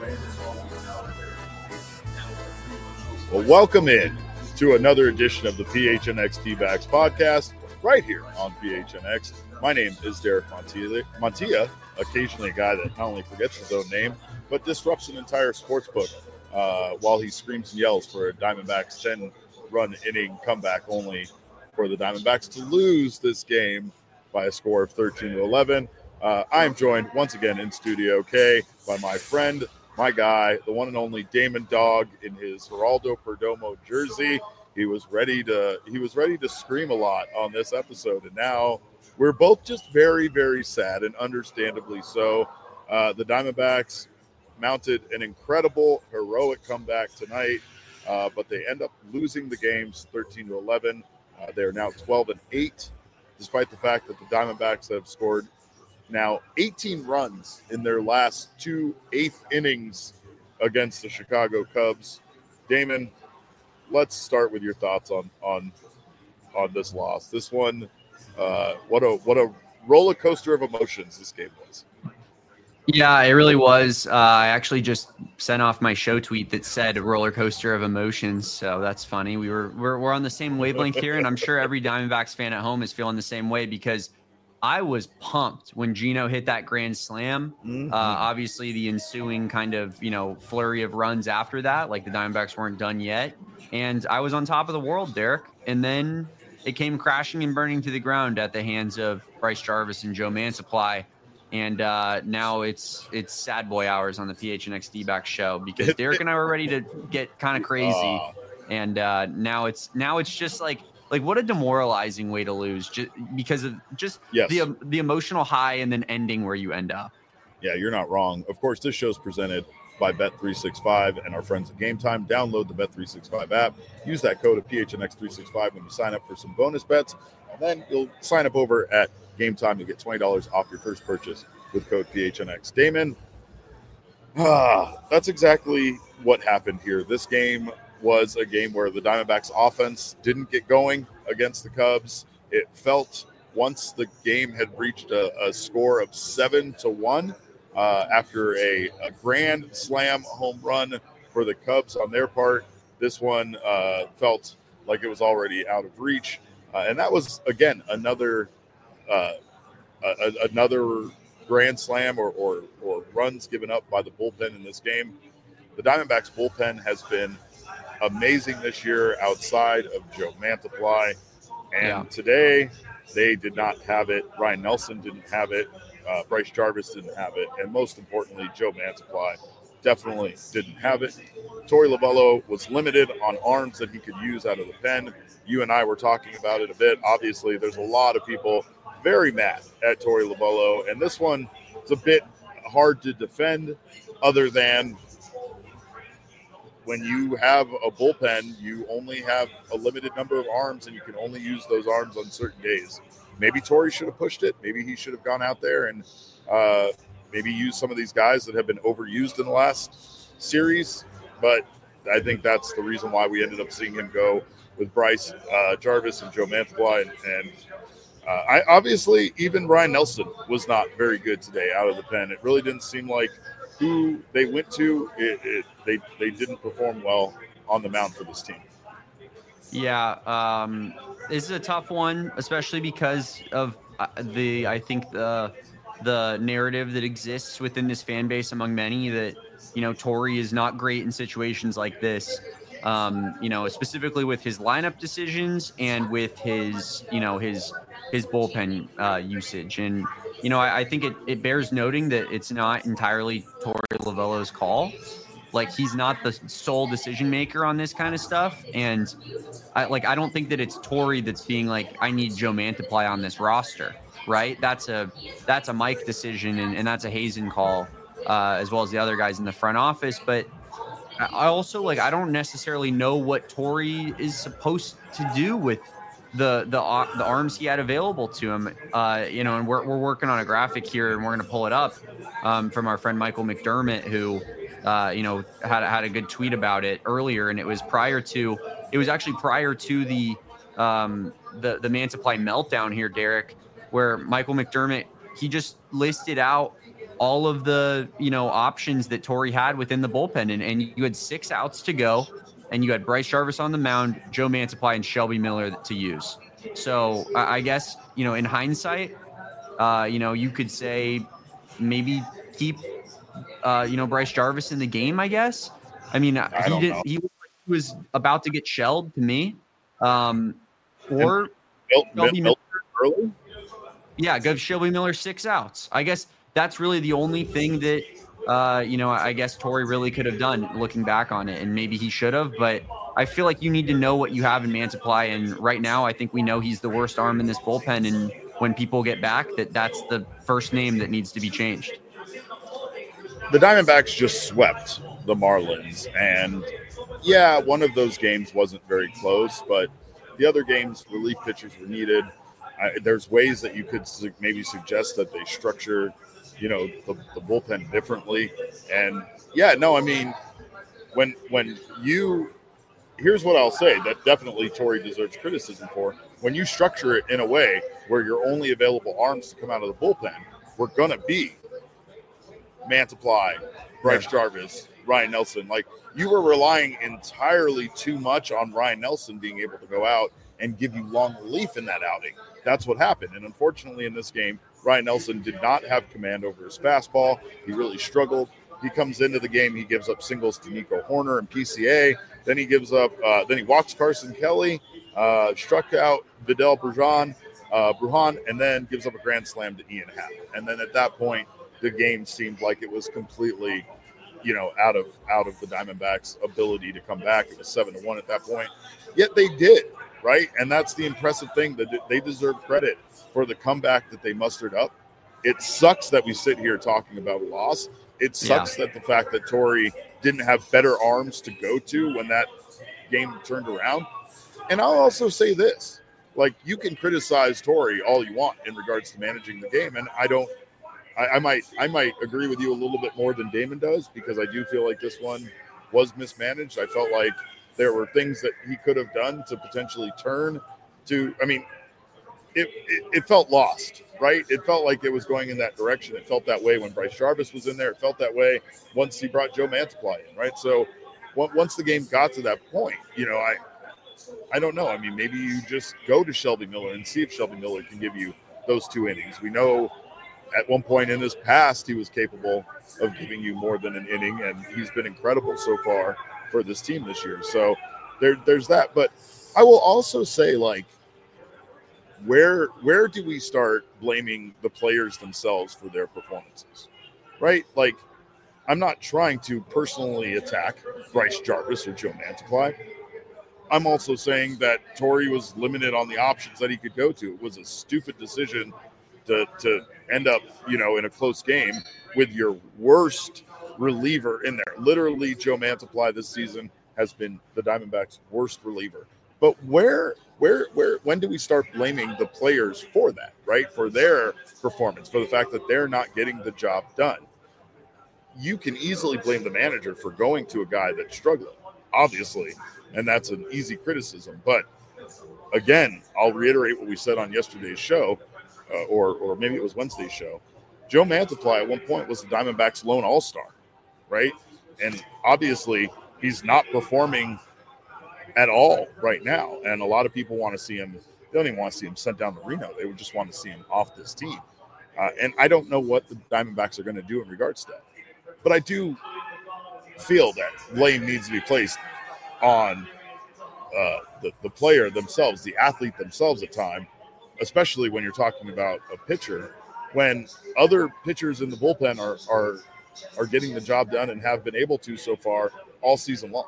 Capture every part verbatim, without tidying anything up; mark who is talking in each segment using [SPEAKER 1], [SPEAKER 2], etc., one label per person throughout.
[SPEAKER 1] Well, welcome in to another edition of the P H N X D-Backs podcast right here on P H N X. My name is Derek Montilla. Montilla, occasionally a guy that not only forgets his own name, but disrupts an entire sports book uh, while he screams and yells for a Diamondbacks ten-run inning comeback, only for the Diamondbacks to lose this game by a score of thirteen to eleven. Uh, I am joined once again in Studio K by my friend, my guy, the one and only Damon Dog in his Geraldo Perdomo jersey. He was ready to he was ready to scream a lot on this episode, and now we're both just very, very sad, and understandably so. Uh, the Diamondbacks mounted an incredible, heroic comeback tonight, uh, but they end up losing the games thirteen to eleven. Uh, they are now twelve and eight, despite the fact that the Diamondbacks have scored now eighteen runs in their last two eighth innings against the Chicago Cubs. Damon, let's start with your thoughts on on on this loss. This one, uh, what a what a roller coaster of emotions this game was.
[SPEAKER 2] Yeah, it really was. Uh, I actually just sent off my show tweet that said roller coaster of emotions. So that's funny. We were we're, we're on the same wavelength here, and I'm sure every Diamondbacks fan at home is feeling the same way because I was pumped when Gino hit that grand slam. Mm-hmm. Uh, obviously, the ensuing kind of, you know, flurry of runs after that, like the Diamondbacks weren't done yet. And I was on top of the world, Derek. And then it came crashing and burning to the ground at the hands of Bryce Jarvis and Joe Mantiply. And uh, now it's it's sad boy hours on the P H N X D-Backs show because Derek and I were ready to get kind of crazy. Uh, and uh, now it's now it's just like, Like, what a demoralizing way to lose just because of just yes. the the emotional high and then ending where you end up.
[SPEAKER 1] Yeah, you're not wrong. Of course, this show is presented by Bet three sixty-five and our friends at Game Time. Download the Bet three sixty-five app. Use that code of P H N X three sixty-five when you sign up for some bonus bets. And then you'll sign up over at Game Time to get twenty dollars off your first purchase with code P H N X. Damon, ah, that's exactly what happened here. This game was a game where the Diamondbacks offense didn't get going against the Cubs. It felt once the game had reached a, a score of seven to one uh, after a, a grand slam home run for the Cubs on their part, this one uh, felt like it was already out of reach. Uh, and that was, again, another uh, a, another grand slam or, or, or runs given up by the bullpen in this game. The Diamondbacks bullpen has been amazing this year outside of Joe Mantiply, and yeah. today they did not have it. Ryan Nelson didn't have it. Uh, Bryce Jarvis didn't have it, and most importantly, Joe Mantiply definitely didn't have it. Torey Lovullo was limited on arms that he could use out of the pen. You and I were talking about it a bit. Obviously, there's a lot of people very mad at Torey Lovullo, and this one is a bit hard to defend other than when you have a bullpen, you only have a limited number of arms, and you can only use those arms on certain days. Maybe Torey should have pushed it. Maybe he should have gone out there and uh, maybe used some of these guys that have been overused in the last series. But I think that's the reason why we ended up seeing him go with Bryce uh, Jarvis and Joe Mantiply. And, and uh, I obviously, even Ryan Nelson was not very good today out of the pen. It really didn't seem like who they went to, it, it, they they didn't perform well on the mound for this team.
[SPEAKER 2] Yeah, um, this is a tough one, especially because of the I think the the narrative that exists within this fan base among many that, you know, Torey is not great in situations like this. Um, you know, specifically with his lineup decisions and with his, you know, his his bullpen uh, usage. And, you know, I, I think it, it bears noting that it's not entirely Torey Lovullo's call. Like, he's not the sole decision maker on this kind of stuff. And I like, I don't think that it's Torey that's being like, I need Joe Mantiply on this roster, right? That's a, that's a Mike decision. And, and that's a Hazen call, uh, as well as the other guys in the front office. But I also, like, I don't necessarily know what Torey is supposed to do with the the uh, the arms he had available to him. Uh, you know, and we're we're working on a graphic here, and we're going to pull it up um, from our friend Michael McDermott, who, uh, you know, had had a good tweet about it earlier, and it was prior to, it was actually prior to the um, the the Mantiply meltdown here, Derek, where Michael McDermott, he just listed out all of the, you know, options that Torrey had within the bullpen. And, and you had six outs to go, and you had Bryce Jarvis on the mound, Joe Mantiply, and Shelby Miller to use. So I, I guess, you know, in hindsight, uh, you know, you could say maybe keep, uh, you know, Bryce Jarvis in the game, I guess. I mean,
[SPEAKER 1] I
[SPEAKER 2] he
[SPEAKER 1] don't
[SPEAKER 2] did.
[SPEAKER 1] know.
[SPEAKER 2] He was about to get shelled to me. Um, or
[SPEAKER 1] Mil-
[SPEAKER 2] Shelby
[SPEAKER 1] Mil-
[SPEAKER 2] Miller.
[SPEAKER 1] early?
[SPEAKER 2] Yeah, give Shelby Miller six outs. I guess that's really the only thing that, uh, you know, I guess Torrey really could have done looking back on it, and maybe he should have. But I feel like you need to know what you have in Mantiply, and right now I think we know he's the worst arm in this bullpen. And when people get back, that that's the first name that needs to be changed.
[SPEAKER 1] The Diamondbacks just swept the Marlins, and yeah, one of those games wasn't very close, but the other games, relief pitchers were needed. I, there's ways that you could su- maybe suggest that they structure, you know, the, the bullpen differently. And yeah, no, I mean, when when you, here's what I'll say that definitely Torrey deserves criticism for. When you structure it in a way where your only available arms to come out of the bullpen were going to be Mantiply, Bryce Jarvis, Ryan Nelson. Like, you were relying entirely too much on Ryan Nelson being able to go out and give you long relief in that outing. That's what happened. And unfortunately in this game, Ryan Nelson did not have command over his fastball. He really struggled. He comes into the game, he gives up singles to Nico Horner and P C A. Then he gives up, uh, then he walks Carson Kelly, uh, struck out Vidal Brujan, uh, Brujan, and then gives up a grand slam to Ian Happ. And then at that point, the game seemed like it was completely, you know, out of out of the Diamondbacks' ability to come back. It was seven to one at that point. Yet they did, right? And that's the impressive thing, that they deserve credit for the comeback that they mustered up. It sucks that we sit here talking about a loss. It sucks yeah. that the fact that Torrey didn't have better arms to go to when that game turned around. And I'll also say this, like, you can criticize Torrey all you want in regards to managing the game, and I don't. I, I might I might agree with you a little bit more than Damon does, because I do feel like this one was mismanaged. I felt like there were things that he could have done to potentially turn to. I mean, it, it, it felt lost, right? It felt like it was going in that direction. It felt that way when Bryce Jarvis was in there. It felt that way once he brought Joe Mantiply in, right? So once the game got to that point, you know, I I don't know. I mean, maybe you just go to Shelby Miller and see if Shelby Miller can give you those two innings. We know at one point in his past, he was capable of giving you more than an inning, and he's been incredible so far for this team this year. So there, there's that. But I will also say, like, where where do we start blaming the players themselves for their performances, right? Like, I'm not trying to personally attack Bryce Jarvis or Joe Mantiply. I'm also saying that Torrey was limited on the options that he could go to. It was a stupid decision to to end up, you know, in a close game with your worst reliever in there. Literally, Joe Mantiply this season has been the Diamondbacks' worst reliever. But where, where, where, when do we start blaming the players for that, right? For their performance, for the fact that they're not getting the job done? You can easily blame the manager for going to a guy that's struggling, obviously, and that's an easy criticism. But again, I'll reiterate what we said on yesterday's show. Uh, or or maybe it was Wednesday's show. Joe Mantiply at one point was the Diamondbacks' lone all-star, right? And obviously he's not performing at all right now. And a lot of people want to see him. They don't even want to see him sent down to Reno. They would just want to see him off this team. Uh, and I don't know what the Diamondbacks are going to do in regards to that. But I do feel that blame needs to be placed on uh, the, the player themselves, the athlete themselves at time, especially when you're talking about a pitcher, when other pitchers in the bullpen are are are getting the job done and have been able to so far all season long.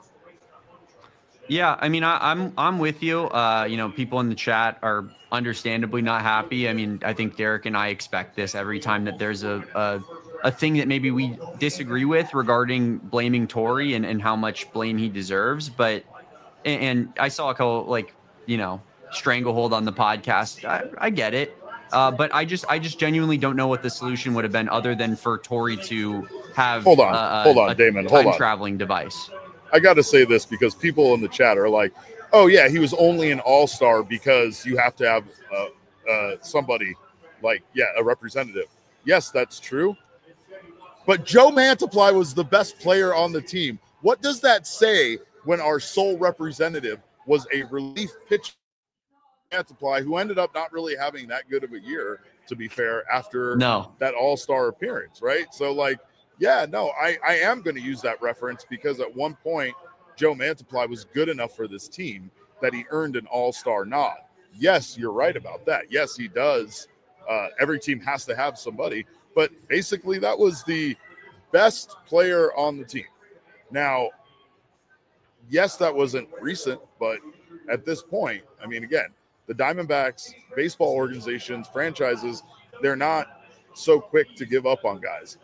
[SPEAKER 2] Yeah, I mean, I, I'm I'm with you. Uh, you know, people in the chat are understandably not happy. I mean, I think Derek and I expect this every time that there's a a, a thing that maybe we disagree with regarding blaming Torrey and, and how much blame he deserves. But and, and I saw a couple, like, you know, stranglehold on the podcast. I, I get it. Uh, but I just I just genuinely don't know what the solution would have been other than for Torrey to have
[SPEAKER 1] hold on,
[SPEAKER 2] uh,
[SPEAKER 1] hold on,
[SPEAKER 2] a
[SPEAKER 1] Damon, hold on.
[SPEAKER 2] time traveling device.
[SPEAKER 1] I got to say this because people in the chat are like, "Oh yeah, he was only an all-star because you have to have uh, uh, somebody like yeah a representative." Yes, that's true. But Joe Mantiply was the best player on the team. What does that say when our sole representative was a relief pitcher, Mantiply, who ended up not really having that good of a year, to be fair, after
[SPEAKER 2] no.
[SPEAKER 1] that all-star appearance, right? So, like, yeah, no, I, I am going to use that reference because at one point, Joe Mantiply was good enough for this team that he earned an all-star nod. Yes, you're right about that. Yes, he does. Uh, every team has to have somebody. But basically, that was the best player on the team. Now, yes, that wasn't recent, but at this point, I mean, again, the Diamondbacks, baseball organizations, franchises, they're not so quick to give up on guys.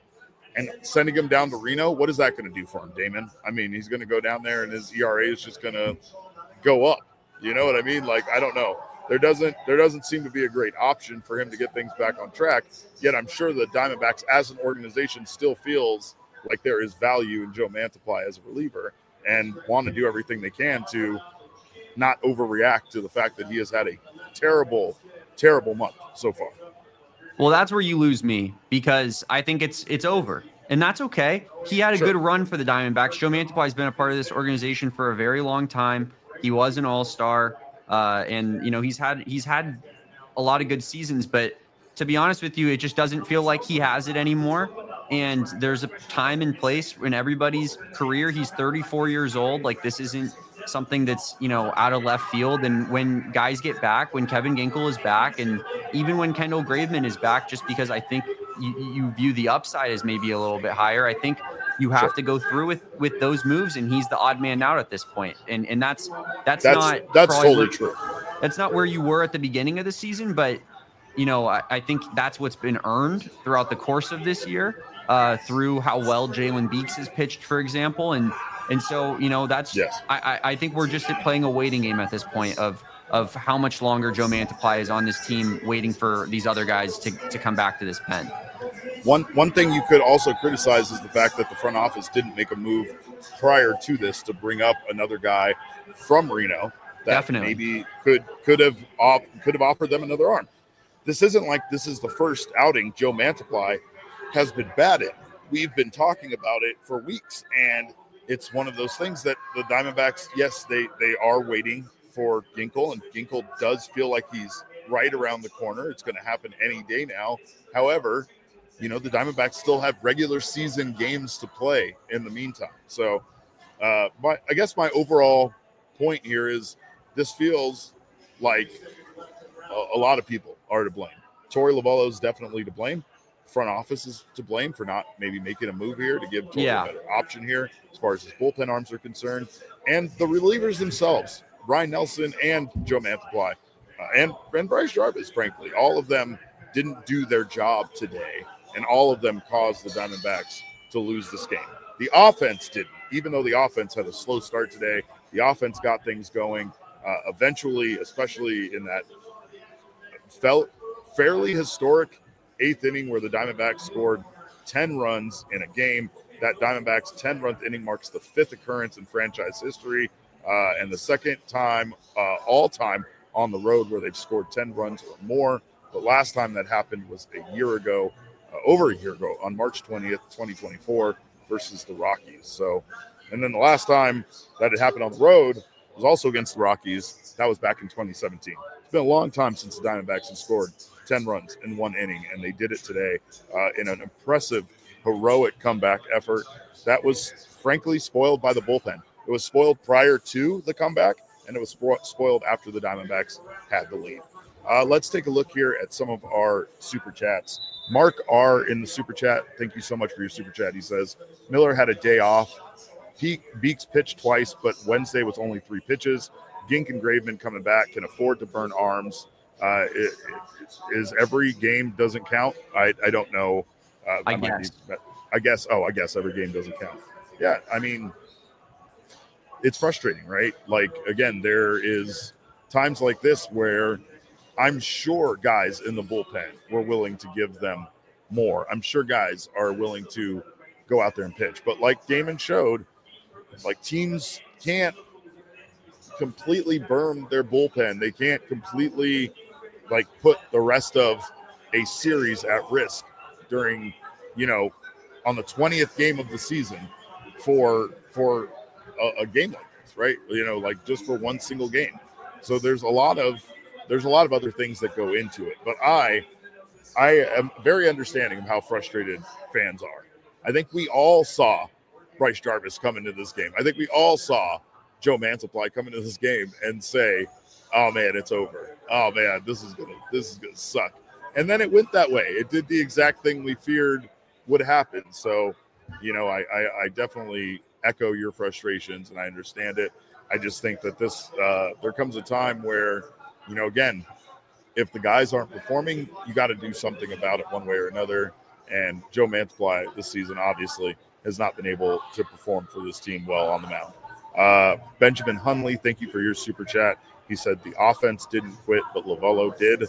[SPEAKER 1] And sending him down to Reno, what is that going to do for him, Damon? I mean, he's going to go down there and his E R A is just going to go up. You know what I mean? Like, I don't know. There doesn't there doesn't seem to be a great option for him to get things back on track. Yet I'm sure the Diamondbacks as an organization still feels like there is value in Joe Mantiply as a reliever and want to do everything they can to not overreact to the fact that he has had a terrible, terrible month so far.
[SPEAKER 2] Well, that's where you lose me because I think it's it's over. And that's okay. He had a
[SPEAKER 1] Sure.
[SPEAKER 2] good run for the Diamondbacks. Joe Mantiply has been a part of this organization for a very long time. He was an all-star. Uh, and, you know, he's had he's had a lot of good seasons. But to be honest with you, it just doesn't feel like he has it anymore. And there's a time and place in everybody's career. He's thirty-four years old. Like, this isn't something that's, you know, out of left field. And when guys get back, when Kevin Ginkel is back, and even when Kendall Graveman is back, just because I think you, you view the upside as maybe a little bit higher, I think you have
[SPEAKER 1] Sure.
[SPEAKER 2] to go through with with those moves, and he's the odd man out at this point. And and that's that's,
[SPEAKER 1] That's
[SPEAKER 2] not
[SPEAKER 1] that's totally
[SPEAKER 2] where,
[SPEAKER 1] true.
[SPEAKER 2] That's not where you were at the beginning of the season, but you know, I, I think that's what's been earned throughout the course of this year, uh, through how well Jalen Beeks has pitched, for example. And and so, you know, that's
[SPEAKER 1] Yes.
[SPEAKER 2] I, I think we're just playing a waiting game at this point of of how much longer Joe Mantiply is on this team, waiting for these other guys to, to come back to this pen.
[SPEAKER 1] One one thing you could also criticize is the fact that the front office didn't make a move prior to this to bring up another guy from Reno that
[SPEAKER 2] Definitely.
[SPEAKER 1] maybe could could have op- could have offered them another arm. This isn't like this is the first outing Joe Mantiply has been bad in. We've been talking about it for weeks, and it's one of those things that the Diamondbacks, yes, they they are waiting for Ginkel, and Ginkel does feel like he's right around the corner. It's going to happen any day now. However, you know, the Diamondbacks still have regular season games to play in the meantime. So uh, my, I guess my overall point here is this feels like a, a lot of people are to blame. Torey Lovullo is definitely to blame. Front office is to blame for not maybe making a move here to give Torey
[SPEAKER 2] Yeah.
[SPEAKER 1] a better option here as far as his bullpen arms are concerned. And the relievers themselves, Brian Nelson and Joe Mantiply, uh, and, and Bryce Jarvis, frankly, all of them didn't do their job today. And all of them caused the Diamondbacks to lose this game. The offense didn't. Even though the offense had a slow start today, the offense got things going. Uh, eventually, especially in that felt fairly historic eighth inning where the Diamondbacks scored ten runs in a game. That Diamondbacks ten-run inning marks the fifth occurrence in franchise history uh, and the second time uh, all-time on the road where they've scored ten runs or more. The last time that happened was a year ago. Uh, over a year ago on March twentieth, twenty twenty-four versus the Rockies. So, and then the last time that it happened on the road was also against the Rockies. That was back in twenty seventeen. It's been a long time since the Diamondbacks have scored ten runs in one inning, and they did it today uh, in an impressive, heroic comeback effort that was frankly spoiled by the bullpen. It was spoiled prior to the comeback, and it was spo- spoiled after the Diamondbacks had the lead. Uh, let's take a look here at some of our super chats. Mark R. in the super chat, thank you so much for your super chat. He says, Miller had a day off. He, Beeks pitched twice, but Wednesday was only three pitches. Gink and Graveman coming back can afford to burn arms. Uh, it, it, is every game doesn't count? I, I don't know. Uh,
[SPEAKER 2] I,
[SPEAKER 1] I might
[SPEAKER 2] guess.
[SPEAKER 1] Be, I guess. Oh, I guess every game doesn't count. Yeah, I mean, it's frustrating, right? Like, again, there is times like this where I'm sure guys in the bullpen were willing to give them more. I'm sure guys are willing to go out there and pitch. But like Damon showed, like teams can't completely burn their bullpen. They can't completely like put the rest of a series at risk during, you know, on the twentieth game of the season for for a, a game like this, right? You know, like just for one single game. So there's a lot of there's a lot of other things that go into it. But I I am very understanding of how frustrated fans are. I think we all saw Bryce Jarvis come into this game. I think we all saw Joe Mantiply come into this game and say, "Oh man, it's over. Oh man, this is gonna this is gonna suck." And then it went that way. It did the exact thing we feared would happen. So, you know, I, I, I definitely echo your frustrations, and I understand it. I just think that this uh, there comes a time where, you know, again, if the guys aren't performing, you got to do something about it one way or another. And Joe Mantiply this season obviously has not been able to perform for this team well on the mound. Uh, Benjamin Hunley, thank you for your super chat. He said the offense didn't quit, but Lovello did.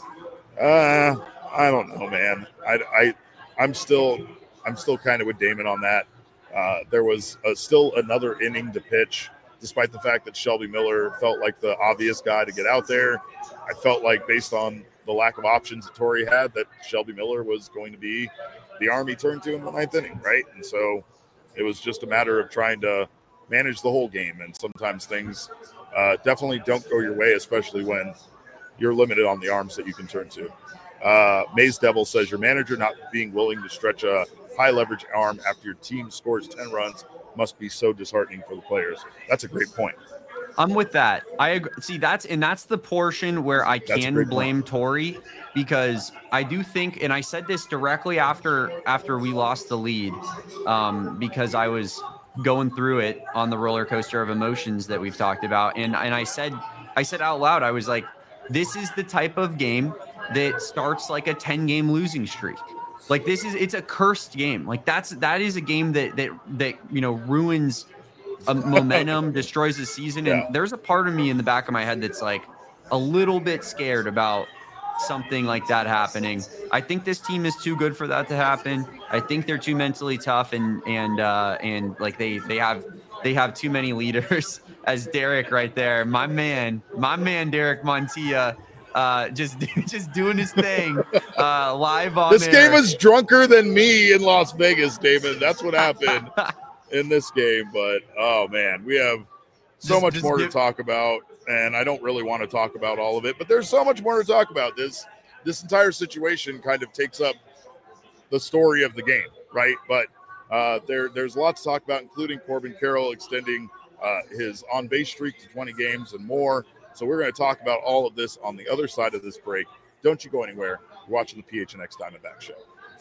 [SPEAKER 1] Uh, I don't know, man. I, I, I'm still, I'm still kind of with Damon on that. Uh, there was a, still another inning to pitch, despite the fact that Shelby Miller felt like the obvious guy to get out there. I felt like based on the lack of options that Torrey had, that Shelby Miller was going to be the arm he turned to in the ninth inning, right? And so it was just a matter of trying to manage the whole game. And sometimes things uh, definitely don't go your way, especially when you're limited on the arms that you can turn to. Uh, Maze Devil says your manager not being willing to stretch a high leverage arm after your team scores ten runs must be so disheartening for the players. That's a great point.
[SPEAKER 2] I'm with that. I agree. See, that's and that's the portion where I can blame point. Torrey, because I do think, and I said this directly after after we lost the lead, um, because I was going through it on the roller coaster of emotions that we've talked about, and and I said I said out loud, I was like, this is the type of game that starts like a ten game losing streak. Like this is it's a cursed game. Like that's that is a game that that that you know ruins a momentum, destroys the season. And yeah. There's a part of me in the back of my head that's like a little bit scared about something like that happening. I think this team is too good for that to happen. I think they're too mentally tough and and uh, and like they they have they have too many leaders. As Derek right there, my man, my man, Derek Montilla, uh, just just doing his thing uh, live on.
[SPEAKER 1] This
[SPEAKER 2] air.
[SPEAKER 1] game is drunker than me in Las Vegas, David. That's what happened. In this game, but oh man, we have so just, much just more give- to talk about, and I don't really want to talk about all of it, but there's so much more to talk about. This this entire situation kind of takes up the story of the game, right? But uh, there there's lots to talk about, including Corbin Carroll extending uh, his on base streak to twenty games and more. So we're going to talk about all of this on the other side of this break. Don't you go anywhere. You're watching the P H N X Diamondback Show.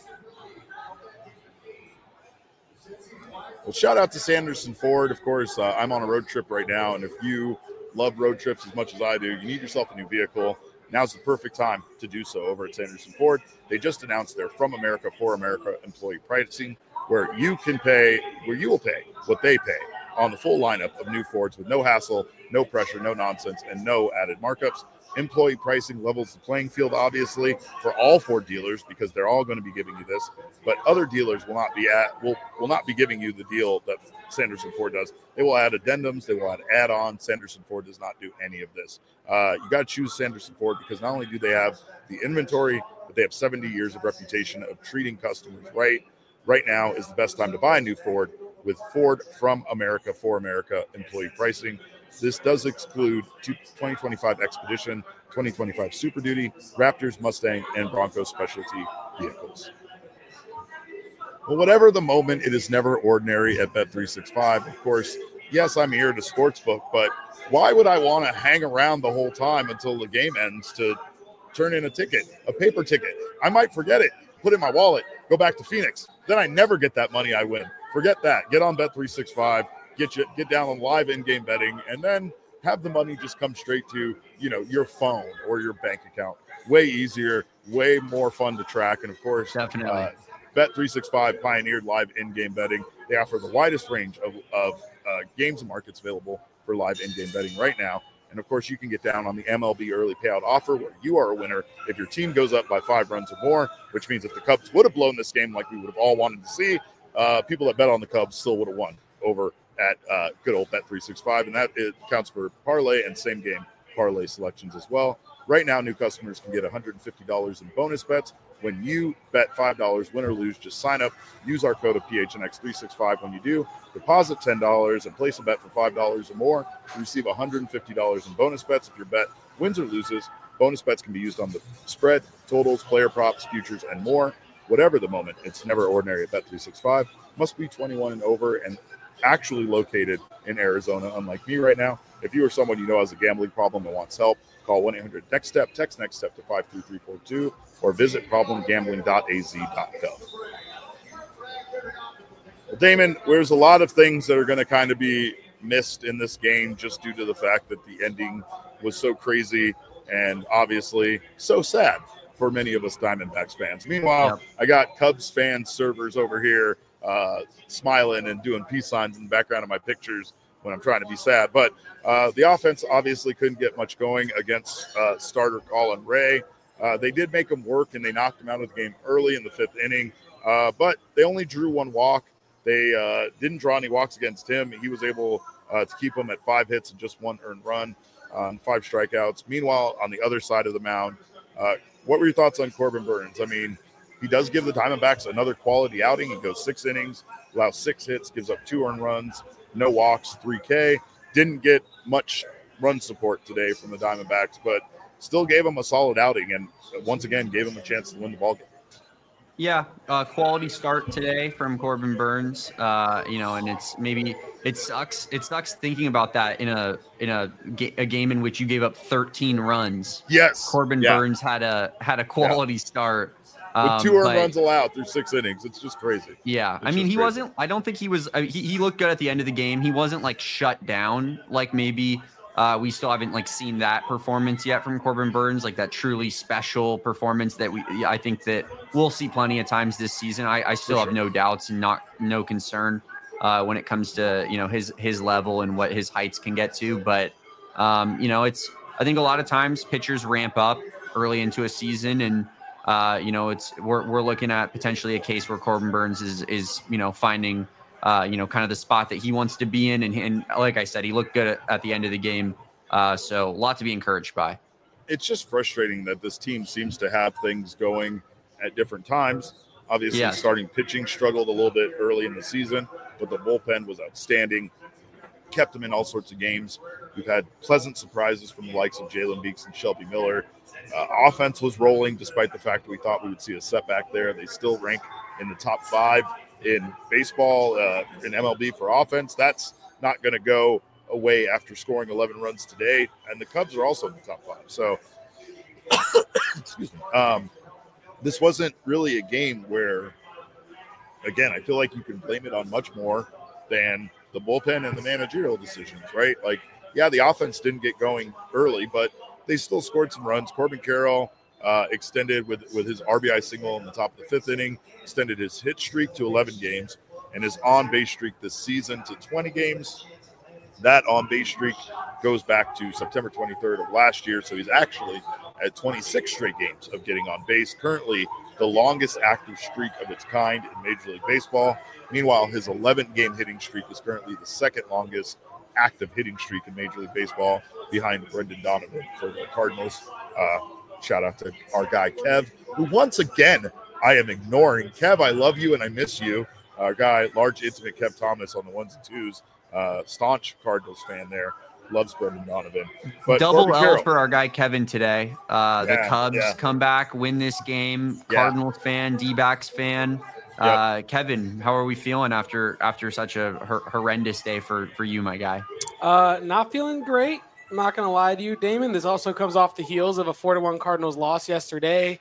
[SPEAKER 1] Well, shout out to Sanderson Ford. Of course, uh, I'm on a road trip right now, and if you love road trips as much as I do, you need yourself a new vehicle. Now's the perfect time to do so over at Sanderson Ford. They just announced their From America for America employee pricing, where you can pay, where you will pay what they pay on the full lineup of new Fords with no hassle, no pressure, no nonsense, and no added markups. Employee pricing levels the playing field, obviously, for all Ford dealers because they're all going to be giving you this. But other dealers will not be at will will not be giving you the deal that Sanderson Ford does. They will add addendums. They will add add-ons. Sanderson Ford does not do any of this. Uh, you got to choose Sanderson Ford because not only do they have the inventory, but they have seventy years of reputation of treating customers right. Right now is the best time to buy a new Ford with Ford From America for America employee pricing. This does exclude twenty twenty-five Expedition, twenty twenty-five Super Duty, Raptors, Mustang, and Bronco specialty vehicles. Well, whatever the moment, it is never ordinary at Bet three sixty-five. Of course, yes, I'm here to sportsbook, but why would I want to hang around the whole time until the game ends to turn in a ticket, a paper ticket? I might forget it, put it in my wallet, go back to Phoenix. Then I never get that money I win. Forget that. Get on Bet three sixty-five. Get you get down on live in-game betting, and then have the money just come straight to, you know, your phone or your bank account. Way easier, way more fun to track, and of course,
[SPEAKER 2] definitely.
[SPEAKER 1] Uh, Bet three sixty-five pioneered live in-game betting. They offer the widest range of, of uh, games and markets available for live in-game betting right now. And of course, you can get down on the M L B early payout offer where you are a winner if your team goes up by five runs or more, which means if the Cubs would have blown this game like we would have all wanted to see, uh, people that bet on the Cubs still would have won over at uh, good old Bet three sixty-five, and that it counts for parlay and same game parlay selections as well. Right now, new customers can get one hundred fifty dollars in bonus bets when you bet five dollars, win or lose. Just sign up, use our code of P H N X three sixty-five when you do. Deposit ten dollars and place a bet for five dollars or more. You receive one hundred fifty dollars in bonus bets if your bet wins or loses. Bonus bets can be used on the spread, totals, player props, futures, and more. Whatever the moment, it's never ordinary at Bet three sixty-five. Must be twenty-one and over and actually located in Arizona, unlike me right now. If you or someone you know has a gambling problem and wants help, call one eight hundred next step, text next step to five three three four two, or visit problem gambling dot a z dot gov. Well, Damon, there's a lot of things that are going to kind of be missed in this game just due to the fact that the ending was so crazy and obviously so sad for many of us Diamondbacks fans. Meanwhile, yep. I got Cubs fan servers over here uh, smiling and doing peace signs in the background of my pictures when I'm trying to be sad. But uh, the offense obviously couldn't get much going against uh, starter Colin Ray. Uh, they did make him work, and they knocked him out of the game early in the fifth inning. Uh, but they only drew one walk. They uh, didn't draw any walks against him. He was able uh, to keep them at five hits and just one earned run on five strikeouts. Meanwhile, on the other side of the mound, uh, what were your thoughts on Corbin Burnes? I mean, he does give the Diamondbacks another quality outing. He goes six innings, allows six hits, gives up two earned runs, no walks, three K. Didn't get much run support today from the Diamondbacks, but still gave him a solid outing and once again gave him a chance to win the ballgame.
[SPEAKER 2] Yeah, uh, quality start today from Corbin Burnes. Uh, you know, and it's maybe it sucks. It sucks thinking about that in a in a, a game in which you gave up thirteen runs.
[SPEAKER 1] Yes,
[SPEAKER 2] Corbin
[SPEAKER 1] yeah.
[SPEAKER 2] Burnes had a had a quality yeah. start
[SPEAKER 1] um, with two earned runs allowed through six innings. It's just crazy.
[SPEAKER 2] Yeah,
[SPEAKER 1] it's
[SPEAKER 2] I mean, he
[SPEAKER 1] crazy.
[SPEAKER 2] wasn't. I don't think he was. Uh, he he looked good at the end of the game. He wasn't like shut down like maybe. Uh, we still haven't like seen that performance yet from Corbin Burnes, like that truly special performance that we. I think that we'll see plenty of times this season. I, I still
[SPEAKER 1] For
[SPEAKER 2] have
[SPEAKER 1] sure.
[SPEAKER 2] no doubts and not no concern uh, when it comes to you know his his level and what his heights can get to. But um, you know, it's I think a lot of times pitchers ramp up early into a season, and uh, you know, it's we're we're looking at potentially a case where Corbin Burnes is is you know finding. Uh, you know, kind of the spot that he wants to be in. And, and like I said, he looked good at, at the end of the game. Uh, so a lot to be encouraged by.
[SPEAKER 1] It's just frustrating that this team seems to have things going at different times. Obviously, yes. starting pitching struggled a little bit early in the season, but the bullpen was outstanding. Kept them in all sorts of games. We've had pleasant surprises from the likes of Jalen Beeks and Shelby Miller. Uh, offense was rolling despite the fact that we thought we would see a setback there. They still rank in the top five in baseball, uh, in M L B for offense. That's not going to go away after scoring eleven runs today. And the Cubs are also in the top five. So, excuse me. Um, this wasn't really a game where, again, I feel like you can blame it on much more than the bullpen and the managerial decisions, right? Like, yeah, the offense didn't get going early, but they still scored some runs. Corbin Carroll uh, extended with, with his R B I single in the top of the fifth inning, extended his hit streak to eleven games, and his on-base streak this season to twenty games. That on-base streak goes back to September twenty-third of last year, so he's actually at twenty-six straight games of getting on base. Currently, the longest active streak of its kind in Major League Baseball. Meanwhile, his eleven-game hitting streak is currently the second longest active hitting streak in Major League Baseball, behind Brendan Donovan for the Cardinals. Uh, shout out to our guy Kev, who once again I am ignoring. Kev, I love you and I miss you. Our guy, large intimate Kev Thomas on the ones and twos. Uh, staunch Cardinals fan there. Loves Brendan Donovan. But
[SPEAKER 2] Double
[SPEAKER 1] Corbin
[SPEAKER 2] L
[SPEAKER 1] Carroll,
[SPEAKER 2] for our guy Kevin today. Uh,
[SPEAKER 1] Yeah,
[SPEAKER 2] the Cubs
[SPEAKER 1] yeah.
[SPEAKER 2] come back, win this game.
[SPEAKER 1] Yeah.
[SPEAKER 2] Cardinals fan, D-backs fan. Uh, Kevin, how are we feeling after after such a hor- horrendous day for, for you, my guy?
[SPEAKER 3] Uh, not feeling great. I'm not going to lie to you, Damon. This also comes off the heels of a four to one Cardinals loss yesterday.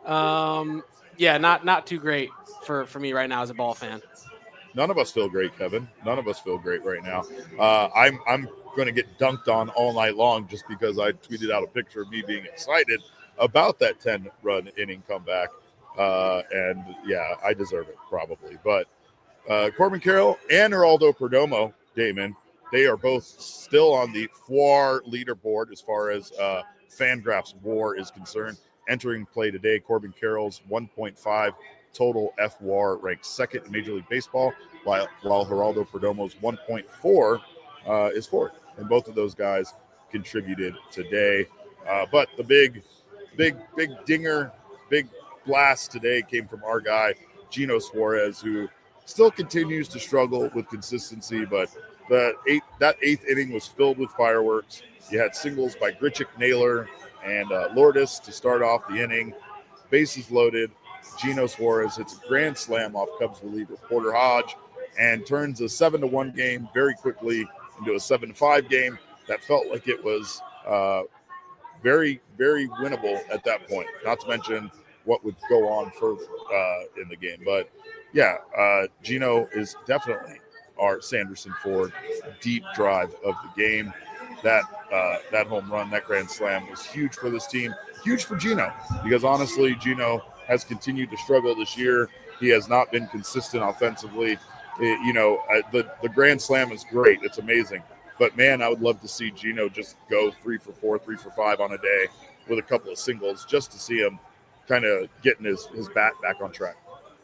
[SPEAKER 3] Um, yeah, not not too great for, for me right now as a ball fan.
[SPEAKER 1] None of us feel great, Kevin. None of us feel great right now. Uh, I'm I'm going to get dunked on all night long just because I tweeted out a picture of me being excited about that ten-run inning comeback. Uh, and, yeah, I deserve it probably. But uh, Corbin Carroll and Geraldo Perdomo, Damon, they are both still on the F W A R leaderboard as far as uh, Fangraphs WAR is concerned. Entering play today, Corbin Carroll's one point five total F W A R ranks second in Major League Baseball, while, while Geraldo Perdomo's one point four uh, is fourth. And both of those guys contributed today. Uh, but the big, big, big dinger, big blast today came from our guy, Gino Suarez, who still continues to struggle with consistency, but the eight, that eighth inning was filled with fireworks. You had singles by Grichuk, Naylor, and uh, Lourdes to start off the inning. Bases loaded. Gino Suarez hits a grand slam off Cubs reliever Porter Hodge and turns a seven to one game very quickly into a seven to five game that felt like it was uh, very, very winnable at that point, not to mention what would go on further uh, in the game. But, yeah, uh, Gino is definitely our Sanderson Ford deep drive of the game. That uh, that home run, that grand slam was huge for this team, huge for Gino, because honestly, Gino has continued to struggle this year. He has not been consistent offensively. It, you know, uh, the, the grand slam is great. It's amazing. But, man, I would love to see Gino just go three for four, three for five on a day with a couple of singles just to see him kind of getting his, his bat back on track.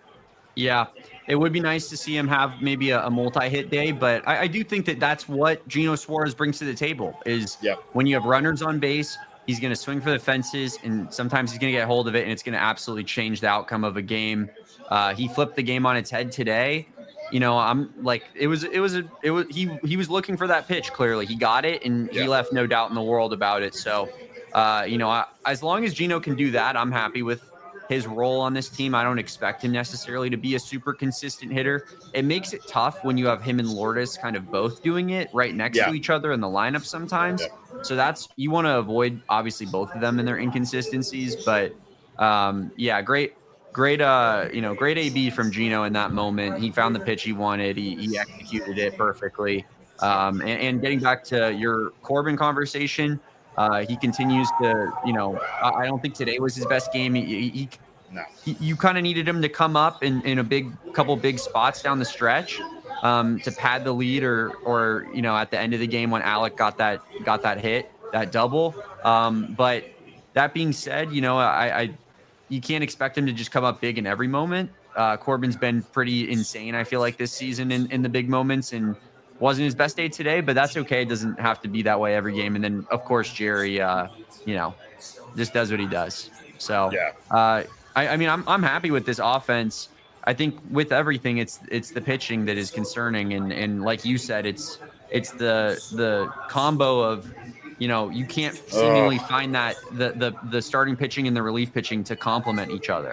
[SPEAKER 2] Yeah, it would be nice to see him have maybe a, a multi-hit day, but I, I do think that that's what Gino Suarez brings to the table is
[SPEAKER 1] yeah.
[SPEAKER 2] when you have runners on base, he's going to swing for the fences, and sometimes he's going to get hold of it, and it's going to absolutely change the outcome of a game. Uh, he flipped the game on its head today. You know, I'm like, it was, it was, a, it was, he, he was looking for that pitch. Clearly he got it, and
[SPEAKER 1] yeah.
[SPEAKER 2] he left no doubt in the world about it. So, uh, you know, I, as long as Gino can do that, I'm happy with his role on this team. I don't expect him necessarily to be a super consistent hitter. It makes it tough when you have him and Lourdes kind of both doing it right next
[SPEAKER 1] yeah.
[SPEAKER 2] to each other in the lineup sometimes.
[SPEAKER 1] Yeah.
[SPEAKER 2] So that's, you want to avoid obviously both of them and their inconsistencies, but um, yeah, great, great, uh, you know, great A B from Gino in that moment. He found the pitch he wanted. He, he executed it perfectly. Um, and, and getting back to your Corbin conversation, Uh, he continues to, you know, I don't think today was his best game. He, he,
[SPEAKER 1] no.
[SPEAKER 2] he you kind of needed him to come up in, in a big couple big spots down the stretch um, to pad the lead, or, or you know, at the end of the game when Alec got that got that hit, that double. Um, but that being said, you know, I, I you can't expect him to just come up big in every moment. Uh, Corbin's been pretty insane, I feel like, this season in, in the big moments, and wasn't his best day today, but that's okay. It doesn't have to be that way every game. And then, of course, Jerry, uh, you know, just does what he does. So,
[SPEAKER 1] yeah.
[SPEAKER 2] uh, I, I mean, I'm I'm happy with this offense. I think with everything, it's it's the pitching that is concerning, and and like you said, it's it's the the combo of, you know, you can't seemingly uh, find that the the the starting pitching and the relief pitching to complement each other.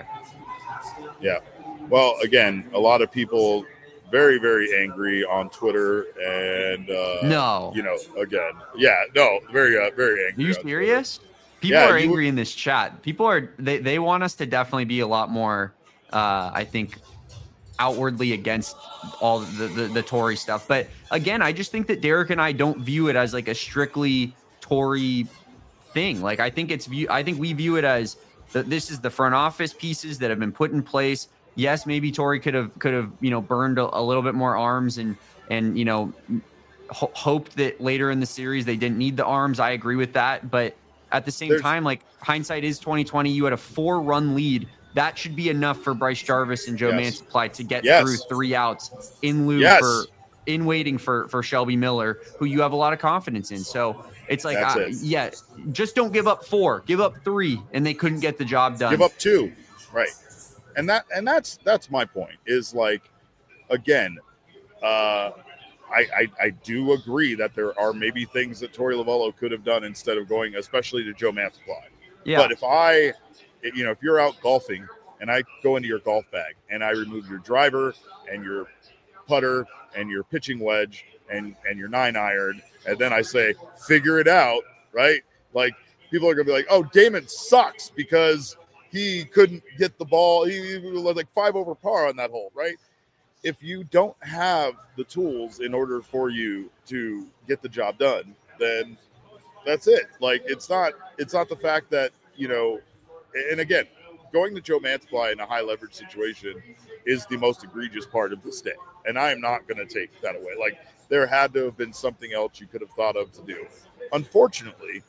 [SPEAKER 1] Yeah. Well, again, a lot of people very, very angry on Twitter, and uh,
[SPEAKER 2] no,
[SPEAKER 1] you know, again, yeah, no, very, uh, very angry.
[SPEAKER 2] Are you serious?
[SPEAKER 1] Twitter.
[SPEAKER 2] People
[SPEAKER 1] yeah,
[SPEAKER 2] are angry
[SPEAKER 1] you,
[SPEAKER 2] in this chat. People are they they want us to definitely be a lot more, uh, I think, outwardly against all the, the the Tory stuff. But again, I just think that Derek and I don't view it as like a strictly Tory thing. Like I think it's view I think we view it as the, this is the front office pieces that have been put in place. Yes, maybe Tory could have could have you know burned a, a little bit more arms and and you know ho- hoped that later in the series they didn't need the arms. I agree with that, but at the same
[SPEAKER 1] There's,
[SPEAKER 2] time, like hindsight is twenty twenty. You had a four run lead. That should be enough for Bryce Jarvis and Joe
[SPEAKER 1] yes.
[SPEAKER 2] Mantiply to get
[SPEAKER 1] yes.
[SPEAKER 2] through three outs in lieu
[SPEAKER 1] yes.
[SPEAKER 2] for in waiting for for Shelby Miller, who you have a lot of confidence in. So it's like, uh,
[SPEAKER 1] it.
[SPEAKER 2] yeah, just don't give up four, give up three, and they couldn't get the job done.
[SPEAKER 1] Give up two, right? And that and that's that's my point. Is like, again, uh, I, I I do agree that there are maybe things that Torey Lovullo could have done instead of going, especially to Joe Mantiply.
[SPEAKER 2] Yeah.
[SPEAKER 1] But if I, you know, if you're out golfing and I go into your golf bag and I remove your driver and your putter and your pitching wedge and and your nine iron, and then I say, figure it out, right? Like people are gonna be like, oh, Damon sucks because he couldn't get the ball. He, he was like five over par on that hole, right? If you don't have the tools in order for you to get the job done, then that's it. Like it's not it's not the fact that, you know, and again, going to Joe Mantiply in a high leverage situation is the most egregious part of this day. And I am not going to take that away. Like there had to have been something else you could have thought of to do. Unfortunately,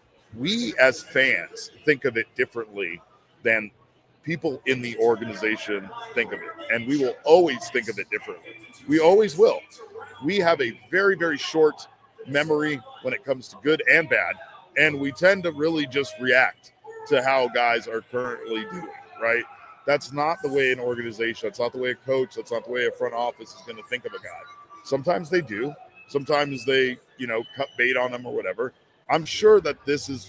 [SPEAKER 1] we as fans think of it differently than people in the organization think of it. And we will always think of it differently. We always will. We have a very, very short memory when it comes to good and bad. And we tend to really just react to how guys are currently doing, right? That's not the way an organization, that's not the way a coach, that's not the way a front office is going to think of a guy. Sometimes they do. Sometimes they, you know, cut bait on them or whatever. I'm sure that this is,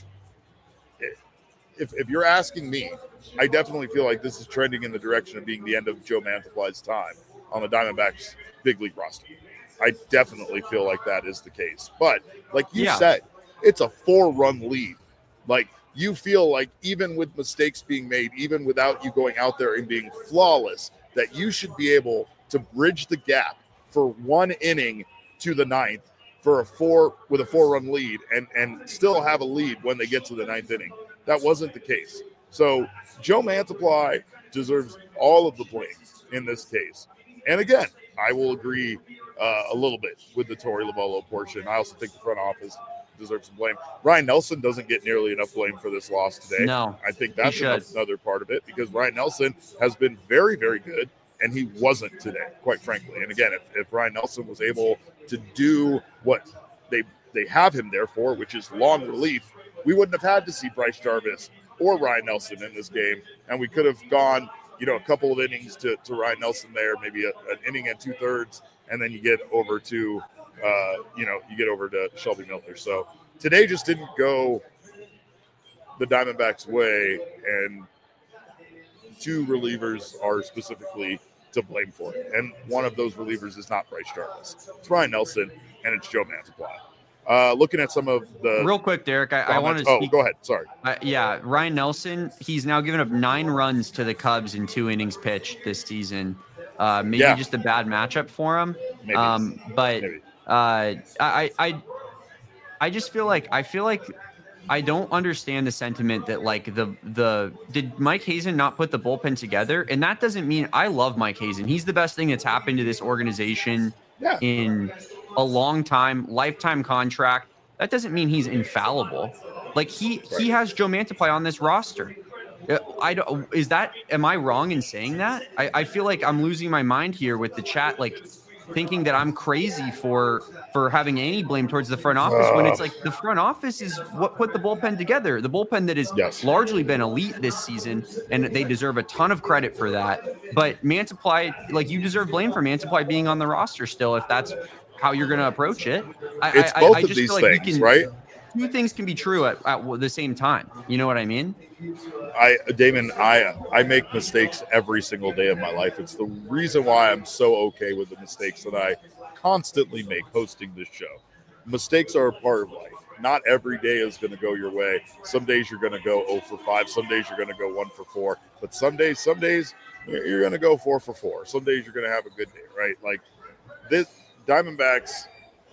[SPEAKER 1] if, if you're asking me, I definitely feel like this is trending in the direction of being the end of Joe Mantiply's time on the Diamondbacks big league roster. I definitely feel like that is the case. But like you yeah. said, it's a four-run lead. Like, you feel like even with mistakes being made, even without you going out there and being flawless, that you should be able to bridge the gap for one inning to the ninth for a four with a four-run lead and, and still have a lead when they get to the ninth inning. That wasn't the case. So Joe Mantiply deserves all of the blame in this case. And again, I will agree uh, a little bit with the Torey Lovullo portion. I also think the front office deserves some blame. Ryan Nelson doesn't get nearly enough blame for this loss today.
[SPEAKER 2] No,
[SPEAKER 1] I think that's another part of it because Ryan Nelson has been very, very good, and he wasn't today, quite frankly. And again, if, if Ryan Nelson was able to do what they they have him there for, which is long relief, we wouldn't have had to see Bryce Jarvis or Ryan Nelson in this game, and we could have gone, you know, a couple of innings to, to Ryan Nelson there, maybe a, an inning and two thirds, and then you get over to Uh, you know, you get over to Shelby Miller. So today just didn't go the Diamondbacks' way, and two relievers are specifically to blame for it. And one of those relievers is not Bryce Jarvis. It's Ryan Nelson, and it's Joe Mantiply. Uh, looking at some of the
[SPEAKER 2] real quick, Derek, I, I want to.
[SPEAKER 1] Oh, go ahead. Sorry.
[SPEAKER 2] Uh, yeah, Ryan Nelson. He's now given up nine runs to the Cubs in two innings pitched this season. Uh, maybe yeah. just a bad matchup for him.
[SPEAKER 1] Maybe.
[SPEAKER 2] Um, but.
[SPEAKER 1] Maybe.
[SPEAKER 2] Uh, I, I, I just feel like I feel like I don't understand the sentiment that like the the did Mike Hazen not put the bullpen together, and that doesn't mean I love Mike Hazen. He's the best thing that's happened to this organization
[SPEAKER 1] yeah.
[SPEAKER 2] in a long time, lifetime contract. That doesn't mean he's infallible. Like he right. he has Joe Mantiply on this roster. I don't. Is that? Am I wrong in saying that? I, I feel like I'm losing my mind here with the chat. Like. Thinking that I'm crazy for for having any blame towards the front office uh, when it's like the front office is what put the bullpen together. The bullpen that has
[SPEAKER 1] yes.
[SPEAKER 2] largely been elite this season, and they deserve a ton of credit for that. But Mantiply, like you deserve blame for Mantiply being on the roster still, if that's how you're going to approach it. I,
[SPEAKER 1] it's
[SPEAKER 2] I,
[SPEAKER 1] both
[SPEAKER 2] I, I
[SPEAKER 1] of
[SPEAKER 2] just
[SPEAKER 1] these
[SPEAKER 2] feel like
[SPEAKER 1] things,
[SPEAKER 2] can,
[SPEAKER 1] right?
[SPEAKER 2] Two things can be true at, at the same time. You know what I mean?
[SPEAKER 1] I, Damon, I I make mistakes every single day of my life. It's the reason why I'm so okay with the mistakes that I constantly make hosting this show. Mistakes are a part of life. Not every day is going to go your way. Some days you're going to go zero for five. Some days you're going to go one for four. But some days, some days you're going to go four for four. Some days you're going to have a good day, right? Like this, Diamondbacks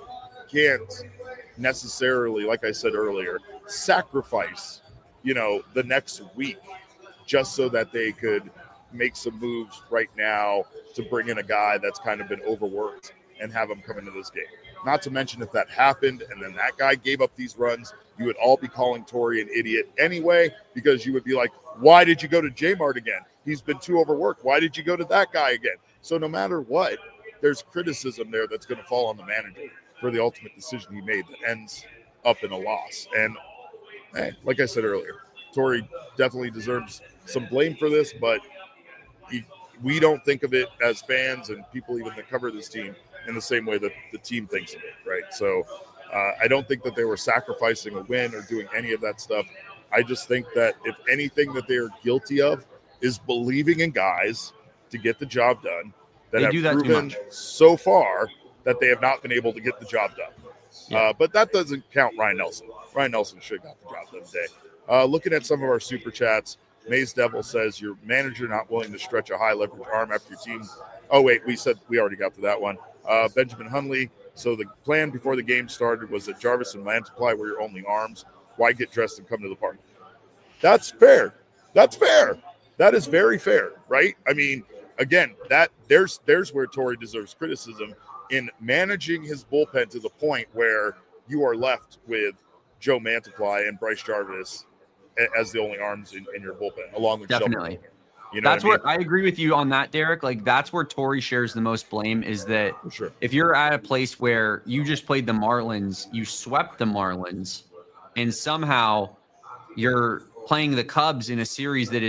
[SPEAKER 1] can't necessarily, like I said earlier, sacrifice, you know, the next week just so that they could make some moves right now to bring in a guy that's kind of been overworked and have him come into this game. Not to mention if that happened and then that guy gave up these runs, you would all be calling Torey an idiot anyway, because you would be like, why did you go to J-Mart again? He's been too overworked. Why did you go to that guy again? So no matter what, there's criticism there that's going to fall on the manager for the ultimate decision he made that ends up in a loss. And hey, like I said earlier, Torey definitely deserves some blame for this, but he, we don't think of it as fans and people even that cover this team in the same way that the team thinks of it, right? So uh, I don't think that they were sacrificing a win or doing any of that stuff. I just think that if anything that they are guilty of is believing in guys to get the job done that
[SPEAKER 2] they
[SPEAKER 1] have
[SPEAKER 2] do that
[SPEAKER 1] proven so far that they have not been able to get the job done. Yeah. Uh, but that doesn't count Ryan Nelson. Ryan Nelson should have got the job done today. Uh, looking at some of our super chats, Maze Devil says, your manager not willing to stretch a high leverage arm after your team. Oh, wait, we said we already got to that one. Uh, Benjamin Hunley, so the plan before the game started was that Jarvis and Mantiply were your only arms. Why get dressed and come to the party? That's fair. That's fair. That is very fair, right? I mean, again, that there's there's where Torey deserves criticism in managing his bullpen to the point where you are left with Joe Mantiply and Bryce Jarvis as the only arms in, in your bullpen, along with
[SPEAKER 2] definitely.
[SPEAKER 1] Shelby. You know
[SPEAKER 2] that's
[SPEAKER 1] what I mean?
[SPEAKER 2] where I agree with you on that, Derek. Like that's where Torey shares the most blame is that
[SPEAKER 1] sure.
[SPEAKER 2] if you're at a place where you just played the Marlins, you swept the Marlins, and somehow you're playing the Cubs in a series that is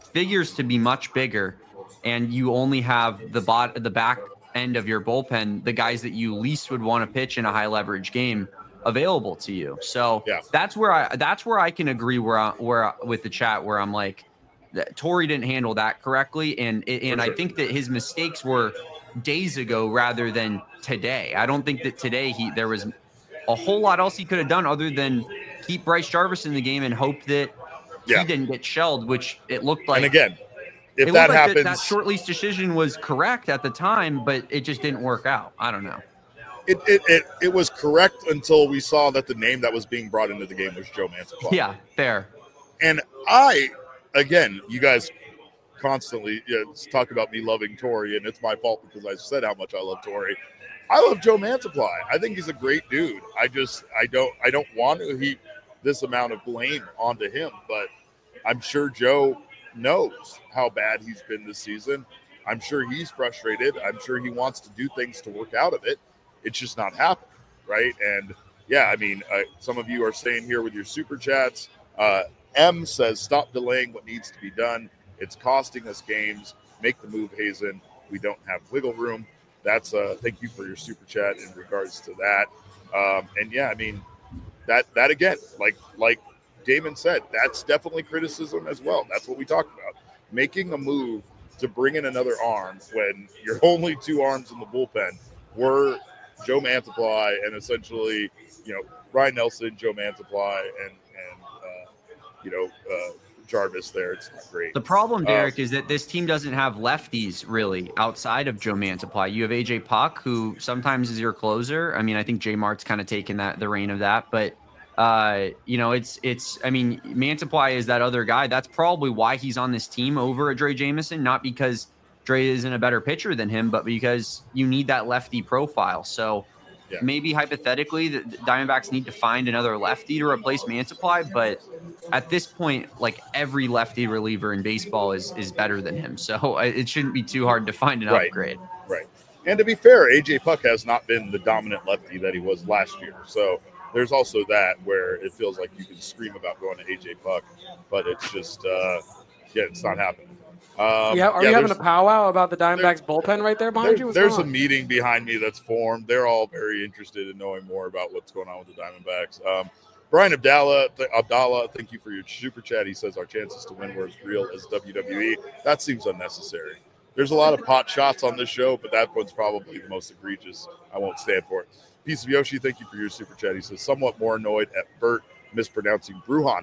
[SPEAKER 2] figures to be much bigger, and you only have the bot the back end of your bullpen, the guys that you least would want to pitch in a high leverage game, available to you. So
[SPEAKER 1] yeah.
[SPEAKER 2] that's where I that's where I can agree where I, where with the chat where I'm like, that Torey didn't handle that correctly, and and
[SPEAKER 1] sure.
[SPEAKER 2] I think that his mistakes were days ago rather than today. I don't think that today he there was a whole lot else he could have done other than keep Bryce Jarvis in the game and hope that
[SPEAKER 1] yeah.
[SPEAKER 2] he didn't get shelled, which it looked like.
[SPEAKER 1] And again, if
[SPEAKER 2] it
[SPEAKER 1] that
[SPEAKER 2] like
[SPEAKER 1] happens,
[SPEAKER 2] that, that short leash decision was correct at the time, but it just didn't work out. I don't know.
[SPEAKER 1] It, it it it was correct until we saw that the name that was being brought into the game was Joe Mantiply.
[SPEAKER 2] Yeah, fair.
[SPEAKER 1] And I, again, you guys constantly you know, talk about me loving Torey, and it's my fault because I said how much I love Torey. I love Joe Mantiply. I think he's a great dude. I just I don't I don't want to heap this amount of blame onto him, but I'm sure Joe knows how bad he's been this season. I'm sure he's frustrated. I'm sure he wants to do things to work out of it. It's just not happening, right? And yeah, I mean, uh, some of you are staying here with your super chats. Uh, M says, stop delaying what needs to be done. It's costing us games. Make the move, Hazen. We don't have wiggle room. That's uh thank you for your super chat in regards to that. Um, and yeah, I mean that that again, like like Damon said, that's definitely criticism as well. That's what we talked about. Making a move to bring in another arm when your only two arms in the bullpen were Joe Mantiply and essentially, you know, Ryan Nelson, Joe Mantiply, and and uh, you know uh, Jarvis there. It's not great.
[SPEAKER 2] The problem, Derek,
[SPEAKER 1] um,
[SPEAKER 2] is that this team doesn't have lefties really outside of Joe Mantiply. You have A J Puck, who sometimes is your closer. I mean, I think J Mart's kind of taken that the reign of that, but uh, you know, it's it's. I mean, Mantiply is that other guy. That's probably why he's on this team over Dre Jameson, not because Dre isn't a better pitcher than him, but because you need that lefty profile. So yeah. maybe hypothetically, the Diamondbacks need to find another lefty to replace Mantiply, but at this point, like every lefty reliever in baseball is is better than him. So it shouldn't be too hard to find an
[SPEAKER 1] right.
[SPEAKER 2] upgrade.
[SPEAKER 1] Right. And to be fair, A J Puck has not been the dominant lefty that he was last year. So there's also that where it feels like you can scream about going to A J Puck, but it's just, uh, yeah, it's not happening. Um,
[SPEAKER 3] yeah, are
[SPEAKER 1] yeah,
[SPEAKER 3] you having a powwow about the Diamondbacks bullpen right there behind
[SPEAKER 1] there,
[SPEAKER 3] you? What's
[SPEAKER 1] there's
[SPEAKER 3] going
[SPEAKER 1] a
[SPEAKER 3] on?
[SPEAKER 1] meeting behind me that's formed. They're all very interested in knowing more about what's going on with the Diamondbacks. Um, Brian Abdallah, th- Abdallah, thank you for your super chat. He says our chances to win were as real as W W E. That seems unnecessary. There's a lot of pot shots on this show, but that one's probably the most egregious. I won't stand for it. Piece of Yoshi, thank you for your super chat. He says, somewhat more annoyed at Bert mispronouncing Bruhan.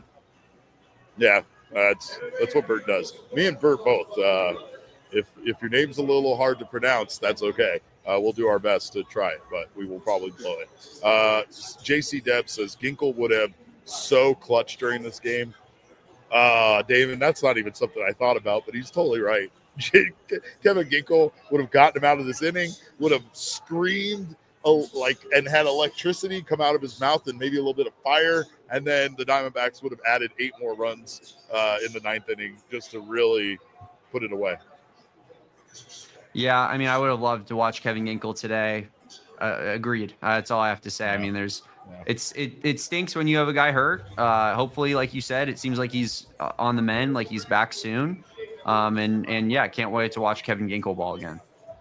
[SPEAKER 1] Yeah, that's that's what Bert does. Me and Bert both. Uh, if if your name's a little hard to pronounce, that's okay. Uh, we'll do our best to try it, but we will probably blow it. Uh, J C Deb says, Ginkel would have so clutched during this game. Uh, David, that's not even something I thought about, but he's totally right. Kevin Ginkel would have gotten him out of this inning, would have screamed like and had electricity come out of his mouth and maybe a little bit of fire, and then the Diamondbacks would have added eight more runs uh, in the ninth inning just to really put it away.
[SPEAKER 2] Yeah, I mean, I would have loved to watch Kevin Ginkel today. Uh, agreed. Uh, that's all I have to say. Yeah. I mean, there's yeah. it's it it stinks when you have a guy hurt. Uh, hopefully, like you said, it seems like he's on the mend, like he's back soon. Um, and and yeah, can't wait to watch Kevin Ginkel ball again.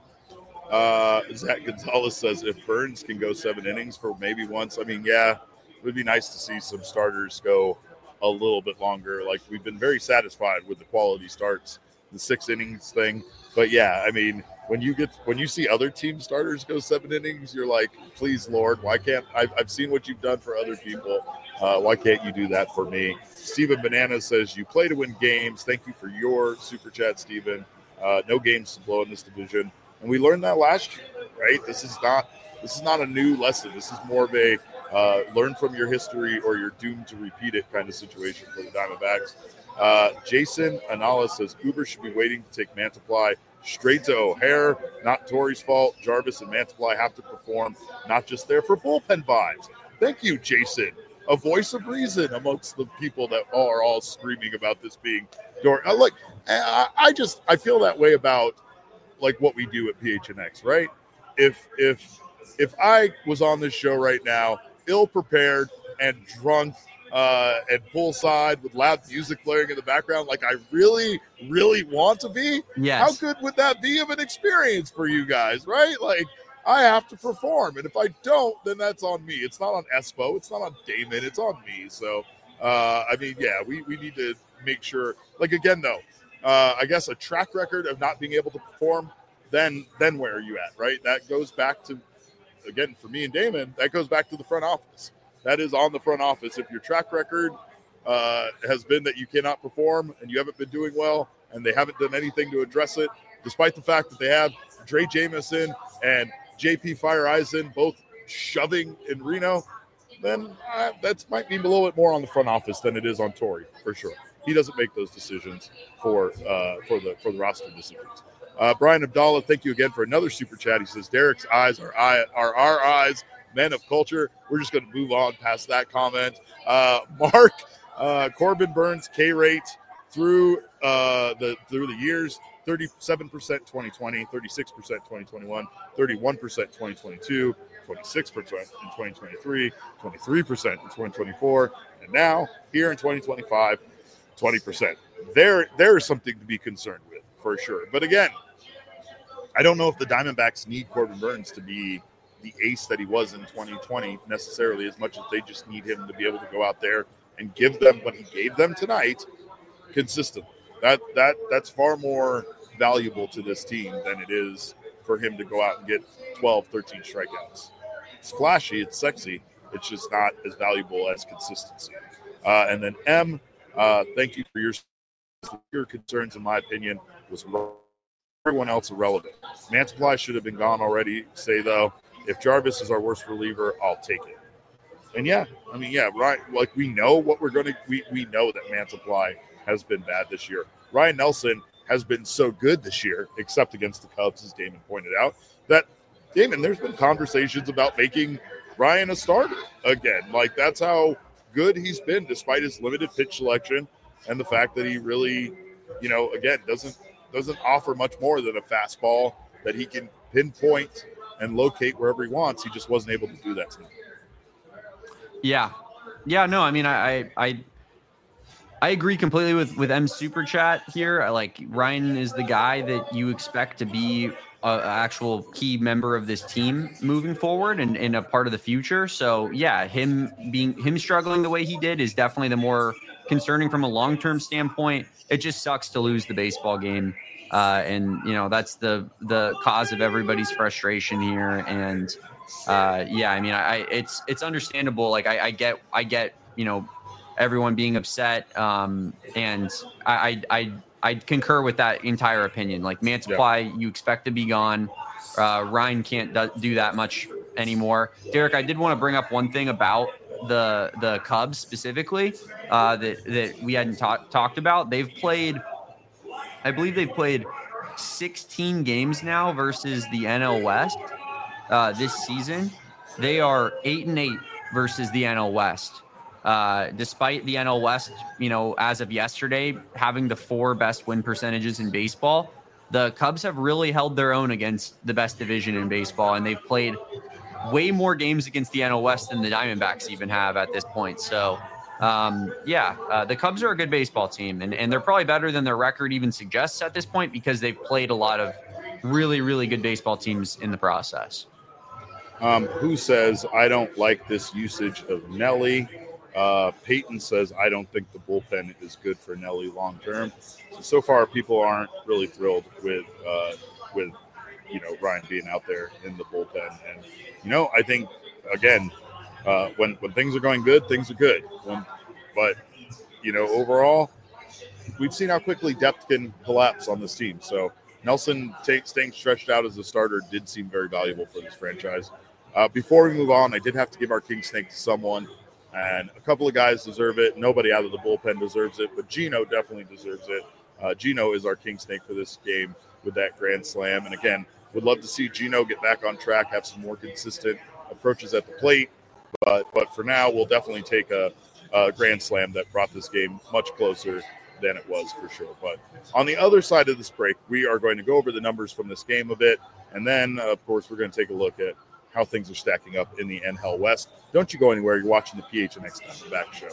[SPEAKER 1] Uh, Zach Gonzalez says if Burns can go seven innings for maybe once, I mean, yeah, it would be nice to see some starters go a little bit longer. Like we've been very satisfied with the quality starts, the six innings thing. But yeah, I mean, when you get when you see other team starters go seven innings, you're like, please, Lord, why can't I've, I've seen what you've done for other people. Uh, why can't you do that for me? Steven Banana says you play to win games. Thank you for your super chat, Steven. Uh, no games to blow in this division. And we learned that last year, right? This is not this is not a new lesson. This is more of a uh, learn from your history or you're doomed to repeat it kind of situation for the Diamondbacks. Uh, Jason Anala says Uber should be waiting to take Mantiply straight to O'Hare. Not Torey's fault. Jarvis and Mantiply have to perform, not just there for bullpen vibes. Thank you, Jason. A voice of reason amongst the people that are all screaming about this being door. Like, I, I just I feel that way about like what we do at P H N X, right? If if if I was on this show right now, ill prepared and drunk uh, and poolside with loud music blaring in the background like I really, really want to be,
[SPEAKER 2] yes.
[SPEAKER 1] how good would that be of an experience for you guys, right? Like, I have to perform, and if I don't, then that's on me. It's not on Espo. It's not on Damon. It's on me. So, uh, I mean, yeah, we, we need to make sure, like, again, though, uh, I guess a track record of not being able to perform, then then where are you at, right? That goes back to, again, for me and Damon, that goes back to the front office. That is on the front office. If your track record uh, has been that you cannot perform and you haven't been doing well and they haven't done anything to address it, despite the fact that they have Dre Jamison and J P Fire Eisen both shoving in Reno, then uh, that might be a little bit more on the front office than it is on Torey, for sure. He doesn't make those decisions for uh, for the for the roster decisions. Uh, Brian Abdallah, thank you again for another super chat. He says, Derek's eyes are, eye, are our eyes, men of culture. We're just going to move on past that comment. Uh, Mark, uh, Corbin Burns, K-rate through uh, the through the years, thirty-seven percent twenty twenty, thirty-six percent twenty twenty-one, thirty-one percent twenty twenty-two, twenty-six percent in twenty twenty-three, twenty-three percent in twenty twenty-four, and now here in twenty twenty-five, twenty percent. There, there is something to be concerned with, for sure. But again, I don't know if the Diamondbacks need Corbin Burns to be the ace that he was in twenty twenty necessarily, as much as they just need him to be able to go out there and give them what he gave them tonight consistently. That that that's far more valuable to this team than it is for him to go out and get twelve, thirteen strikeouts. It's flashy, it's sexy. It's just not as valuable as consistency. Uh, and then M, uh, thank you for your your concerns. In my opinion, was everyone else irrelevant. Mantiply should have been gone already. Say though, if Jarvis is our worst reliever, I'll take it. And yeah, I mean, yeah, right. Like we know what we're going to. We we know that Mantiply has been bad this year. Ryan Nelson has been so good this year, except against the Cubs, as Damon pointed out, that, Damon, there's been conversations about making Ryan a starter again. Like, that's how good he's been, despite his limited pitch selection and the fact that he really, you know, again, doesn't doesn't offer much more than a fastball that he can pinpoint and locate wherever he wants. He just wasn't able to do that tonight.
[SPEAKER 2] Yeah. Yeah, no, I mean, I I I, I agree completely with, with M's super chat here. I like Ryan is the guy that you expect to be an actual key member of this team moving forward and, and a part of the future. So yeah, him being him struggling the way he did is definitely the more concerning from a long-term standpoint. It just sucks to lose the baseball game. Uh, and you know, that's the, the cause of everybody's frustration here. And uh, yeah, I mean, I, it's, it's understandable. Like I, I get, I get, you know, everyone being upset. Um, and I, I, I, I concur with that entire opinion. Like Mantiply, yeah. You expect to be gone. Uh, Ryan can't do, do that much anymore. Derek, I did want to bring up one thing about the, the Cubs specifically uh, that, that we hadn't ta- talked about. They've played, I believe they've played sixteen games now versus the N L West uh, this season. They are eight and eight versus the N L West. Uh, despite the N L West, you know, as of yesterday, having the four best win percentages in baseball, the Cubs have really held their own against the best division in baseball, and they've played way more games against the N L West than the Diamondbacks even have at this point. So, um, yeah, uh, the Cubs are a good baseball team, and, and they're probably better than their record even suggests at this point because they've played a lot of really, really good baseball teams in the process.
[SPEAKER 1] Um, who says, I don't like this usage of Nelly? Uh, Peyton says, I don't think the bullpen is good for Nelly long term. So, so far, people aren't really thrilled with, uh, with you know, Ryan being out there in the bullpen. And, you know, I think, again, uh, when, when things are going good, things are good. When, but, you know, overall, we've seen how quickly depth can collapse on this team. So Nelson t- staying stretched out as a starter did seem very valuable for this franchise. Uh, before we move on, I did have to give our King Snake to someone. And a couple of guys deserve it. Nobody out of the bullpen deserves it, but Gino definitely deserves it. Uh, Gino is our King Snake for this game with that grand slam. And again, would love to see Gino get back on track, have some more consistent approaches at the plate. But but for now, we'll definitely take a, a grand slam that brought this game much closer than it was for sure. But on the other side of this break, we are going to go over the numbers from this game a bit. And then, of course, we're going to take a look at how things are stacking up in the N H L West. Don't you go anywhere. You're watching the P H N X Diamondback Show.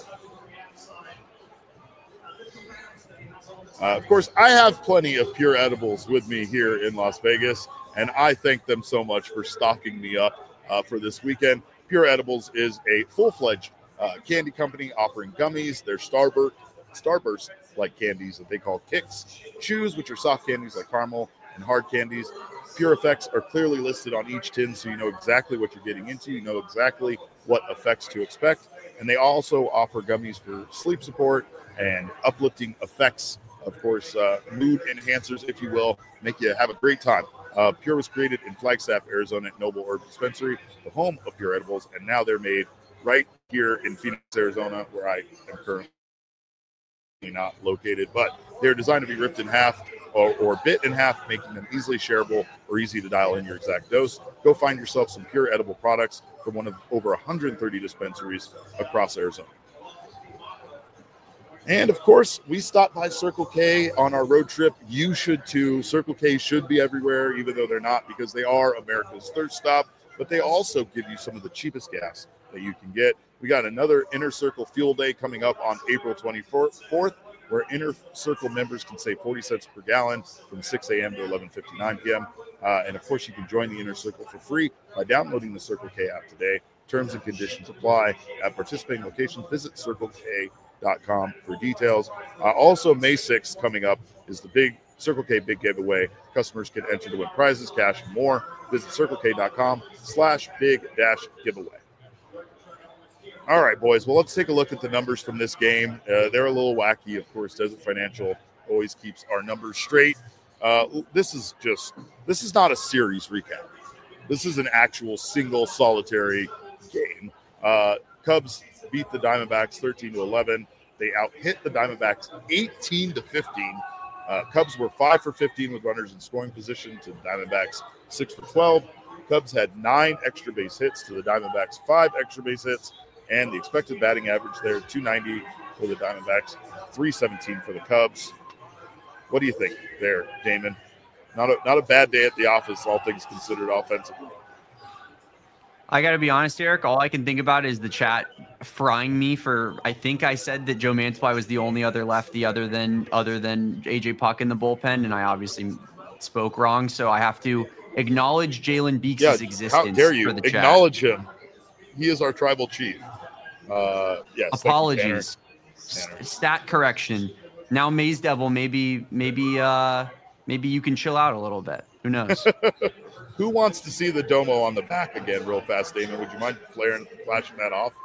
[SPEAKER 1] Uh, of course, I have plenty of Pure Edibles with me here in Las Vegas, and I thank them so much for stocking me up uh, for this weekend. Pure Edibles is a full-fledged uh, candy company offering gummies. They're Starburst, Starburst-like candies that they call Kicks, chews, which are soft candies like caramel, and hard candies. Pure effects are clearly listed on each tin, so you know exactly what you're getting into. You know exactly what effects to expect. And they also offer gummies for sleep support and uplifting effects. Of course, uh, mood enhancers, if you will, make you have a great time. Uh, Pure was created in Flagstaff, Arizona at Noble Herb Dispensary, the home of Pure Edibles, and now they're made right here in Phoenix, Arizona, where I am currently not located. But they're designed to be ripped in half or, or bit in half, making them easily shareable or easy to dial in your exact dose. Go find yourself some Pure Edible products from one of over one hundred thirty dispensaries across Arizona. And, of course, we stopped by Circle K on our road trip. You should, too. Circle K should be everywhere, even though they're not, because they are America's thirst stop. But they also give you some of the cheapest gas that you can get. We got another Inner Circle Fuel Day coming up on April twenty-fourth, where Inner Circle members can save forty cents per gallon from six a.m. to eleven fifty-nine p.m. Uh, and, of course, you can join the Inner Circle for free by downloading the Circle K app today. Terms and conditions apply. At participating locations, visit Circle K dot com for details. Uh, also, May sixth coming up is the big Circle K Big Giveaway. Customers can enter to win prizes, cash, and more. Visit Circle K dot com slash big dash giveaway. All right, boys. Well, let's take a look at the numbers from this game. Uh, they're a little wacky. Of course, Desert Financial always keeps our numbers straight. Uh, this is just, this is not a series recap. This is an actual single solitary game. Uh, Cubs beat the Diamondbacks thirteen to eleven. They out-hit the Diamondbacks eighteen to fifteen. Uh, Cubs were five for fifteen with runners in scoring position to the Diamondbacks six for twelve. Cubs had nine extra base hits to the Diamondbacks five extra base hits. And the expected batting average there, two ninety for the Diamondbacks, three seventeen for the Cubs. What do you think there, Damon? Not a, not a bad day at the office, all things considered offensively.
[SPEAKER 2] I got to be honest, Eric, all I can think about is the chat frying me for, I think I said that Joe Mantiply was the only other lefty other than other than A J Puck in the bullpen, and I obviously spoke wrong, so I have to acknowledge Jalen Beeks'
[SPEAKER 1] yeah,
[SPEAKER 2] existence
[SPEAKER 1] how dare you
[SPEAKER 2] for the chat.
[SPEAKER 1] Acknowledge him. He is our tribal chief. Uh, yes.
[SPEAKER 2] Apologies. St- stat correction. Now Maze Devil, maybe maybe uh, maybe you can chill out a little bit. Who knows?
[SPEAKER 1] Who wants to see the domo on the back again real fast, Damon? Would you mind flaring, flashing that off?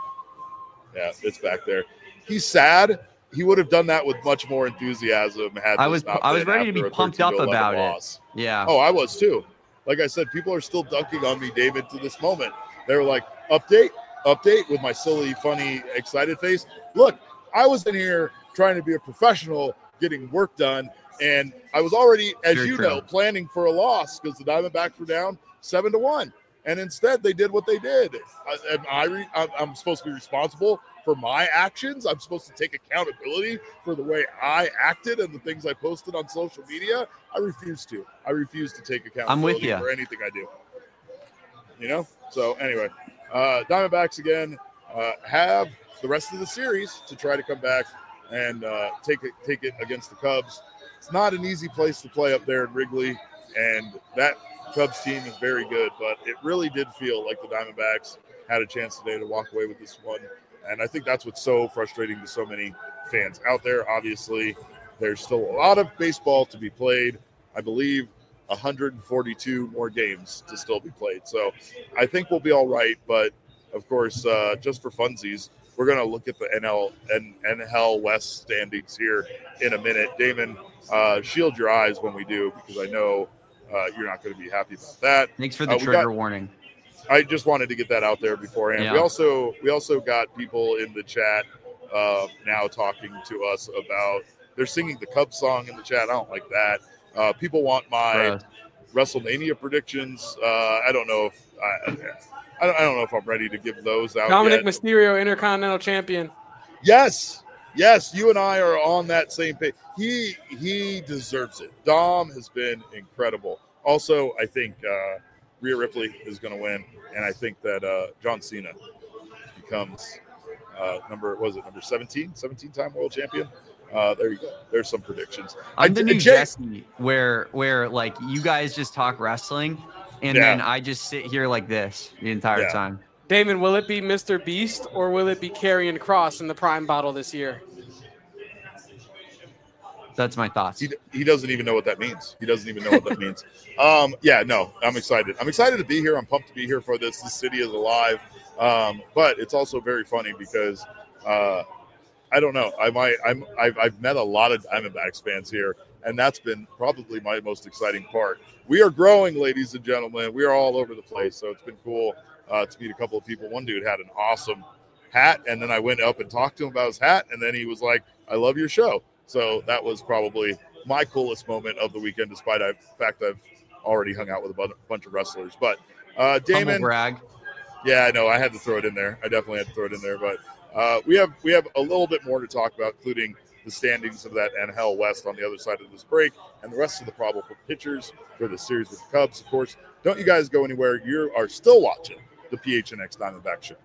[SPEAKER 1] Yeah, it's back there. He's sad. He would have done that with much more enthusiasm. Had
[SPEAKER 2] I was I was ready to be pumped up about
[SPEAKER 1] loss.
[SPEAKER 2] it. Yeah.
[SPEAKER 1] Oh, I was too. Like I said, people are still dunking on me, David, to this moment. They were like, update, update, with my silly, funny, excited face. Look, I was in here trying to be a professional, getting work done, and I was already, as
[SPEAKER 2] Very
[SPEAKER 1] you
[SPEAKER 2] true.
[SPEAKER 1] know, planning for a loss because the Diamondbacks were down seven to one, and instead they did what they did. I, am I re, I'm, I'm supposed to be responsible for my actions. I'm supposed to take accountability for the way I acted and the things I posted on social media. I refuse to. I refuse to take accountability
[SPEAKER 2] I'm with you.
[SPEAKER 1] for anything I do. You know. So anyway, uh, Diamondbacks again uh, have the rest of the series to try to come back and uh, take it take it against the Cubs. It's not an easy place to play up there in Wrigley, and that Cubs team is very good, but it really did feel like the Diamondbacks had a chance today to walk away with this one, and I think that's what's so frustrating to so many fans out there. Obviously, there's still a lot of baseball to be played. I believe one hundred forty-two more games to still be played, so I think we'll be all right, but of course, uh, just for funsies, we're going to look at the N L N L West standings here in a minute. Damon, uh, shield your eyes when we do, because I know uh, you're not going to be happy about that.
[SPEAKER 2] Thanks for the
[SPEAKER 1] uh,
[SPEAKER 2] trigger
[SPEAKER 1] got,
[SPEAKER 2] warning.
[SPEAKER 1] I just wanted to get that out there beforehand.
[SPEAKER 2] Yeah.
[SPEAKER 1] We also we also got people in the chat uh, now talking to us about, they're singing the Cubs song in the chat. I don't like that. Uh, people want my
[SPEAKER 2] Gross.
[SPEAKER 1] WrestleMania predictions. Uh, I don't know if I, I don't, I don't know if I'm ready to give those out.
[SPEAKER 3] Dominic
[SPEAKER 1] yet.
[SPEAKER 3] Mysterio, Intercontinental Champion.
[SPEAKER 1] Yes, yes, you and I are on that same page. He he deserves it. Dom has been incredible. Also, I think uh, Rhea Ripley is going to win, and I think that uh, John Cena becomes uh, number was it number seventeen, seventeen-time world champion. Uh, there you go. There's some predictions.
[SPEAKER 2] I'm
[SPEAKER 1] I,
[SPEAKER 2] the new
[SPEAKER 1] Jay,
[SPEAKER 2] Jesse, where where like you guys just talk wrestling, and
[SPEAKER 1] yeah.
[SPEAKER 2] then I just sit here like this the entire
[SPEAKER 1] Yeah.
[SPEAKER 2] time.
[SPEAKER 3] Damon, will it be Mister Beast or will it be Karrion Kross in the Prime Bottle this year?
[SPEAKER 2] That's my thoughts.
[SPEAKER 1] He, he doesn't even know what that means. He doesn't even know what that means. Um, yeah, no, I'm excited. I'm excited to be here. I'm pumped to be here for this. This city is alive. Um, but it's also very funny because uh, I don't know. I might. I'm. I've, I've met a lot of Diamondbacks fans here, and that's been probably my most exciting part. We are growing, ladies and gentlemen. We are all over the place, so it's been cool uh, to meet a couple of people. One dude had an awesome hat, and then I went up and talked to him about his hat, and then he was like, "I love your show." So that was probably my coolest moment of the weekend, despite the fact I've already hung out with a bunch of wrestlers. But uh, Damon,
[SPEAKER 2] Humble brag.
[SPEAKER 1] Yeah, I know. I had to throw it in there. I definitely had to throw it in there. But uh, we have we have a little bit more to talk about, including the standings of that N L West on the other side of this break and the rest of the probable pitchers for the series with the Cubs. Of course, don't you guys go anywhere. You are still watching the P H N X Diamondback Show.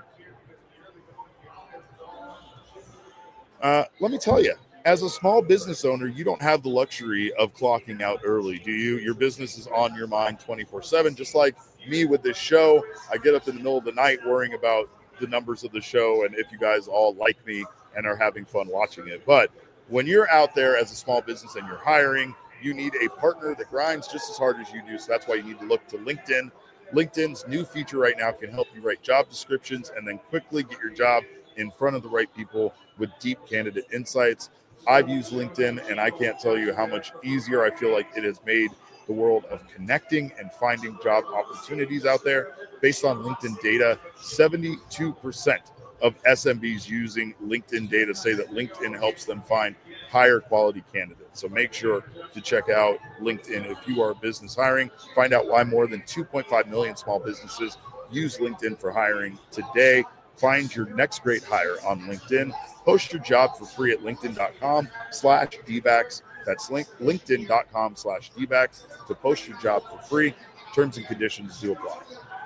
[SPEAKER 1] Uh, let me tell you, as a small business owner, you don't have the luxury of clocking out early, do you? Your business is on your mind twenty-four seven, just like me with this show. I get up in the middle of the night worrying about the numbers of the show and if you guys all like me and are having fun watching it. But when you're out there as a small business and you're hiring, you need a partner that grinds just as hard as you do. So that's why you need to look to LinkedIn. LinkedIn's new feature right now can help you write job descriptions and then quickly get your job in front of the right people with deep candidate insights. I've used LinkedIn, and I can't tell you how much easier I feel like it has made the world of connecting and finding job opportunities out there. Based on LinkedIn data, seventy-two percent of S M Bs using LinkedIn data say that LinkedIn helps them find higher quality candidates. So make sure to check out LinkedIn if you are business hiring. Find out why more than two point five million small businesses use LinkedIn for hiring today. Find your next great hire on LinkedIn. Post your job for free at linkedin.com slash dbacks. That's link, linkedin.com slash dbacks to post your job for free. Terms and conditions do apply.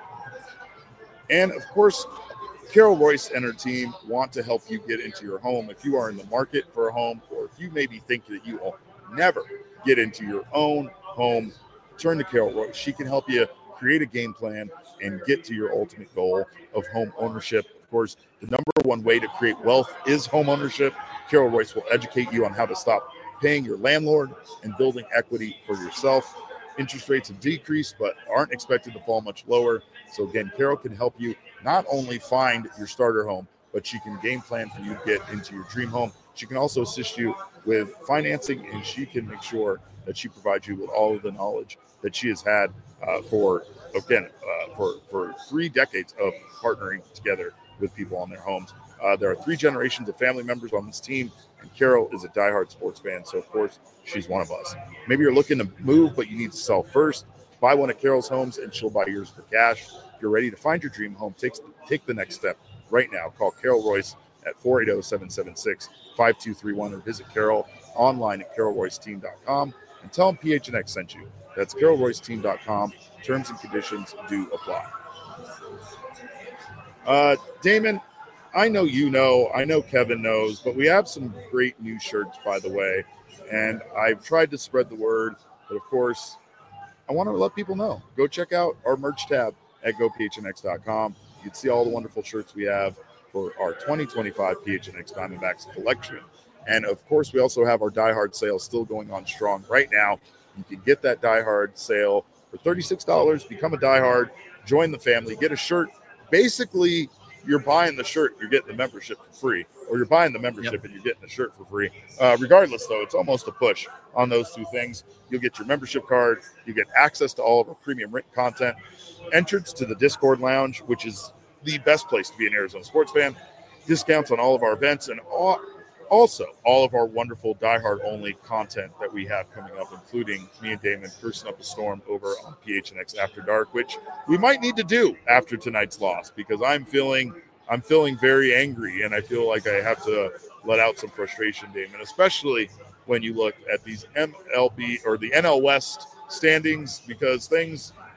[SPEAKER 1] And, of course, Carol Royce and her team want to help you get into your home. If you are in the market for a home, or if you maybe think that you will never get into your own home, turn to Carol Royce. She can help you create a game plan and get to your ultimate goal of home ownership. Of course, the number one way to create wealth is home ownership. Carol Royce will educate you on how to stop paying your landlord and building equity for yourself. Interest rates have decreased, but aren't expected to fall much lower. So again, Carol can help you not only find your starter home, but she can game plan for you to get into your dream home. She can also assist you with financing, and she can make sure that she provides you with all of the knowledge that she has had uh, for, again, uh, for, for three decades of partnering together with people on their homes. Uh, there are three generations of family members on this team, and Carol is a diehard sports fan, so of course she's one of us. Maybe you're looking to move, but you need to sell first. Buy one of Carol's homes, and she'll buy yours for cash. If you're ready to find your dream home, take, take the next step right now. Call Carol Royce at four eight zero, seven seven six, five two three one or visit Carol online at carol royce team dot com and tell them P H N X sent you. That's carol royce team dot com. Terms and conditions do apply. Uh, Damon, I know you know, I know Kevin knows, but we have some great new shirts, by the way, and I've tried to spread the word, but of course, I want to let people know. Go check out our merch tab at go p h n x dot com. You can see all the wonderful shirts we have for our twenty twenty-five P H N X Diamondbacks collection. And of course, we also have our Die Hard sale still going on strong right now. You can get that Die Hard sale for thirty-six dollars, become a Die Hard, join the family, get a shirt. Basically, you're buying the shirt, you're getting the membership for free, or you're buying the membership yep. and you're getting the shirt for free. Uh, regardless, though, it's almost a push on those two things. You'll get your membership card, you get access to all of our premium written content, entrance to the Discord Lounge, which is the best place to be an Arizona sports fan, discounts on all of our events, and all, also all of our wonderful Die Hard only content that we have coming up, including me and Damon cursing up a storm over on P H N X After Dark, which we might need to do after tonight's loss, because I'm feeling I'm feeling very angry, and I feel like I have to let out some frustration, Damon, especially when you look at these M L B or the N L West standings, because things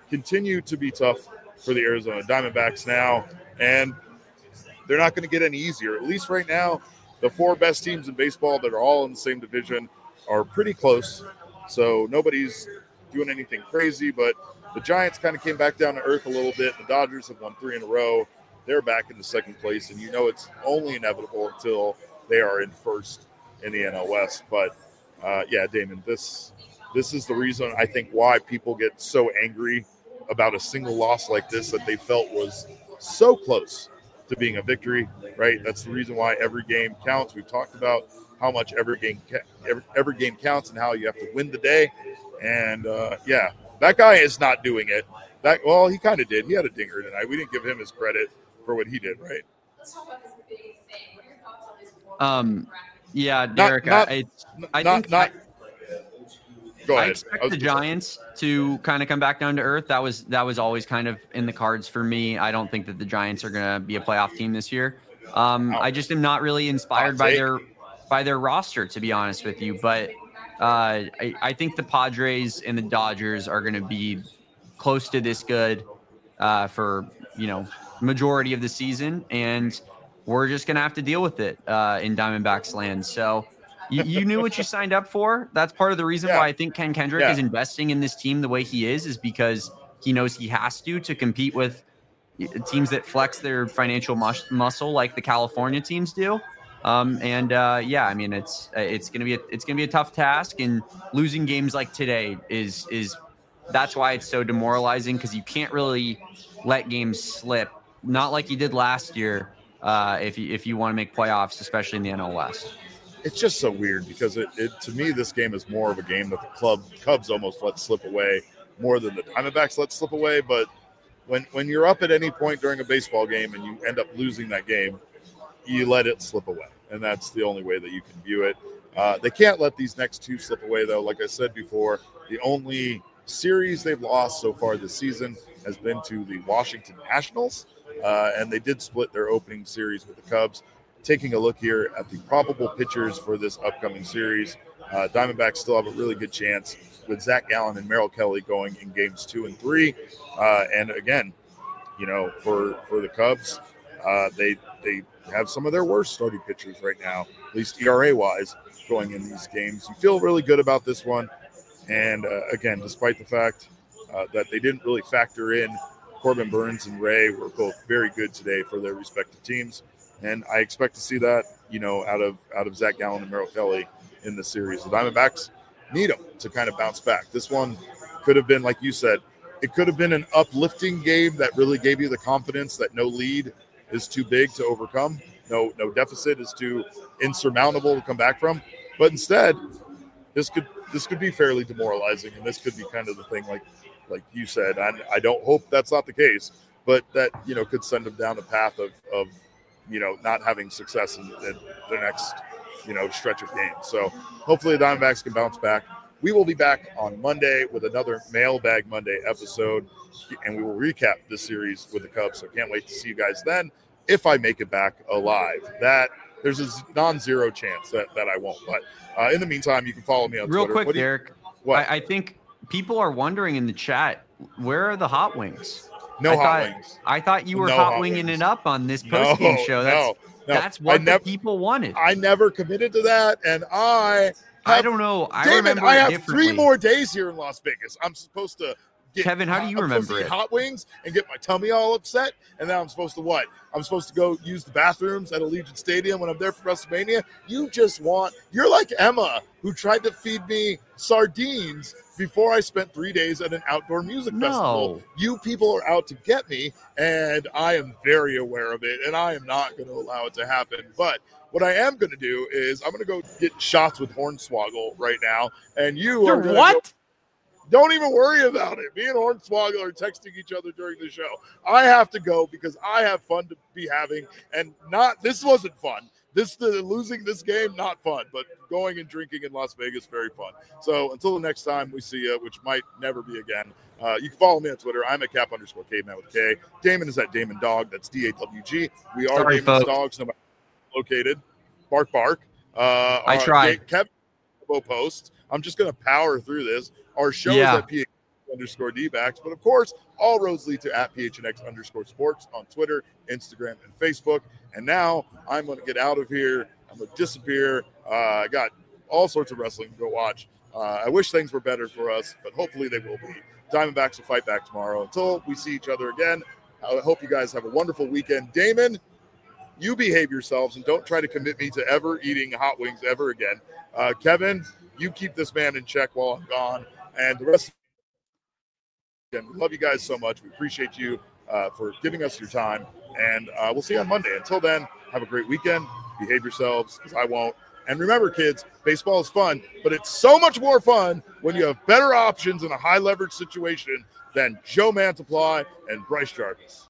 [SPEAKER 1] continue to be tough for the Arizona Diamondbacks now, and they're not going to get any easier. At least right now, the four best teams in baseball that are all in the same division are pretty close. So nobody's doing anything crazy, but the Giants kind of came back down to earth a little bit. The Dodgers have won three in a row. They're back in the second place, and you know it's only inevitable until they are in first in the N L West. But, uh, yeah, Damon, this this is the reason I think why people get so angry about a single loss like this that they felt was so close to being a victory, right? That's the reason why every game counts. We've talked about how much every game every, every game counts and how you have to win the day. And, uh, yeah, that guy is not doing it. That Well, he kind of did. He had a dinger tonight. We didn't give him his credit for what he did, right?
[SPEAKER 2] Um, yeah, Derek,
[SPEAKER 1] not,
[SPEAKER 2] I, I
[SPEAKER 1] not,
[SPEAKER 2] think
[SPEAKER 1] not,
[SPEAKER 2] I,
[SPEAKER 1] go ahead.
[SPEAKER 2] I expect I the Giants to kind of come back down to earth. That was that was always kind of in the cards for me. I don't think that the Giants are going to be a playoff team this year. Um, I just am not really inspired by their by their roster, to be honest with you. But uh, I, I think the Padres and the Dodgers are going to be close to this good uh, for, you know, majority of the season, and we're just going to have to deal with it uh, in Diamondbacks land. So you, you knew what you signed up for. That's part of the reason yeah. why I think Ken Kendrick yeah. is investing in this team the way he is, is because he knows he has to to compete with teams that flex their financial mus- muscle like the California teams do. Um, and uh, yeah, I mean, it's it's gonna be a, it's gonna be a tough task, and losing games like today is is that's why it's so demoralizing, because you can't really let games slip, not like you did last year. Uh, if you if you want to make playoffs, especially in the N L West.
[SPEAKER 1] It's just so weird because it, it to me this game is more of a game that the club Cubs almost let slip away more than the Diamondbacks let slip away. But when when you're up at any point during a baseball game and you end up losing that game, you let it slip away, and that's the only way that you can view it. Uh, they can't let these next two slip away, though. Like I said before, the only series they've lost so far this season has been to the Washington Nationals, uh, and they did split their opening series with the Cubs. Taking a look here at the probable pitchers for this upcoming series, uh, Diamondbacks still have a really good chance with Zach Gallen and Merrill Kelly going in games two and three. Uh, and again, you know, for, for the Cubs, uh, they they have some of their worst starting pitchers right now, at least E R A-wise, going in these games. You feel really good about this one. And, uh, again, despite the fact uh, that they didn't really factor in Corbin Burns and Ray were both very good today for their respective teams. And I expect to see that, you know, out of out of Zach Gallen and Merrill Kelly in the series. The Diamondbacks need them to kind of bounce back. This one could have been, like you said, it could have been an uplifting game that really gave you the confidence that no lead is too big to overcome. No, no deficit is too insurmountable to come back from. But instead, this could this could be fairly demoralizing, and this could be kind of the thing, like like you said. I, I don't hope that's not the case, but that, you know, could send them down a path of of you know, not having success in, in the next, you know, stretch of games. So hopefully the Diamondbacks can bounce back. We will be back on Monday with another Mailbag Monday episode, and we will recap this series with the Cubs. So can't wait to see you guys then, if I make it back alive. That there's a non-zero chance that, that I won't. But uh, in the meantime, you can follow me on
[SPEAKER 2] Real
[SPEAKER 1] Twitter.
[SPEAKER 2] Real quick, Derek. What? I, I think people are wondering in the chat, where are the hot wings?
[SPEAKER 1] No
[SPEAKER 2] I
[SPEAKER 1] hot
[SPEAKER 2] thought,
[SPEAKER 1] wings.
[SPEAKER 2] I thought you were
[SPEAKER 1] no
[SPEAKER 2] hot,
[SPEAKER 1] hot
[SPEAKER 2] winging
[SPEAKER 1] wings.
[SPEAKER 2] it up on this post-game
[SPEAKER 1] no,
[SPEAKER 2] show. That's,
[SPEAKER 1] no, no.
[SPEAKER 2] that's what
[SPEAKER 1] nev-
[SPEAKER 2] the people wanted.
[SPEAKER 1] I never committed to that, and I have,
[SPEAKER 2] I don't know. I
[SPEAKER 1] Damon,
[SPEAKER 2] remember
[SPEAKER 1] I have
[SPEAKER 2] differently.
[SPEAKER 1] three more days here in Las Vegas. I'm supposed to get
[SPEAKER 2] Kevin, how do you
[SPEAKER 1] I'm
[SPEAKER 2] remember
[SPEAKER 1] supposed to
[SPEAKER 2] it?
[SPEAKER 1] eat hot wings and get my tummy all upset, and then I'm supposed to what? I'm supposed to go use the bathrooms at Allegiant Stadium when I'm there for WrestleMania. You just want – you're like Emma, who tried to feed me sardines before I spent three days at an outdoor music
[SPEAKER 2] no.
[SPEAKER 1] festival. You people are out to get me, and I am very aware of it, and I am not going to allow it to happen. But what I am going to do is I'm going to go get shots with Hornswoggle right now, and you
[SPEAKER 3] You're
[SPEAKER 1] are going to
[SPEAKER 3] what?
[SPEAKER 1] Go- Don't even worry about it. Me and Hornswoggle are texting each other during the show. I have to go because I have fun to be having, and not this wasn't fun. This the losing this game, not fun, but going and drinking in Las Vegas, very fun. So until the next time we see you, which might never be again, uh, you can follow me on Twitter. I'm at cap underscore caveman with K. Damon is at Damon Dog. That's D A W G. We are
[SPEAKER 2] Sorry,
[SPEAKER 1] Damon's
[SPEAKER 2] folks.
[SPEAKER 1] dogs, no matter where located. Bark, bark. Uh,
[SPEAKER 2] I tried.
[SPEAKER 1] Kevin Post. I'm just going to power through this. Our show
[SPEAKER 2] yeah.
[SPEAKER 1] is at P H underscore D-backs. But, of course, all roads lead to at P H N X underscore sports on Twitter, Instagram, and Facebook. And now I'm going to get out of here. I'm going to disappear. Uh, I got all sorts of wrestling to go watch. Uh, I wish things were better for us, but hopefully they will be. Diamondbacks will fight back tomorrow. Until we see each other again, I hope you guys have a wonderful weekend. Damon, you behave yourselves and don't try to commit me to ever eating hot wings ever again. Uh, Kevin, you keep this man in check while I'm gone. And the rest of the weekend, we love you guys so much. We appreciate you uh, for giving us your time. And uh, we'll see you on Monday. Until then, have a great weekend. Behave yourselves, because I won't. And remember, kids, baseball is fun, but it's so much more fun when you have better options in a high-leverage situation than Joe Mantiply and Bryce Jarvis.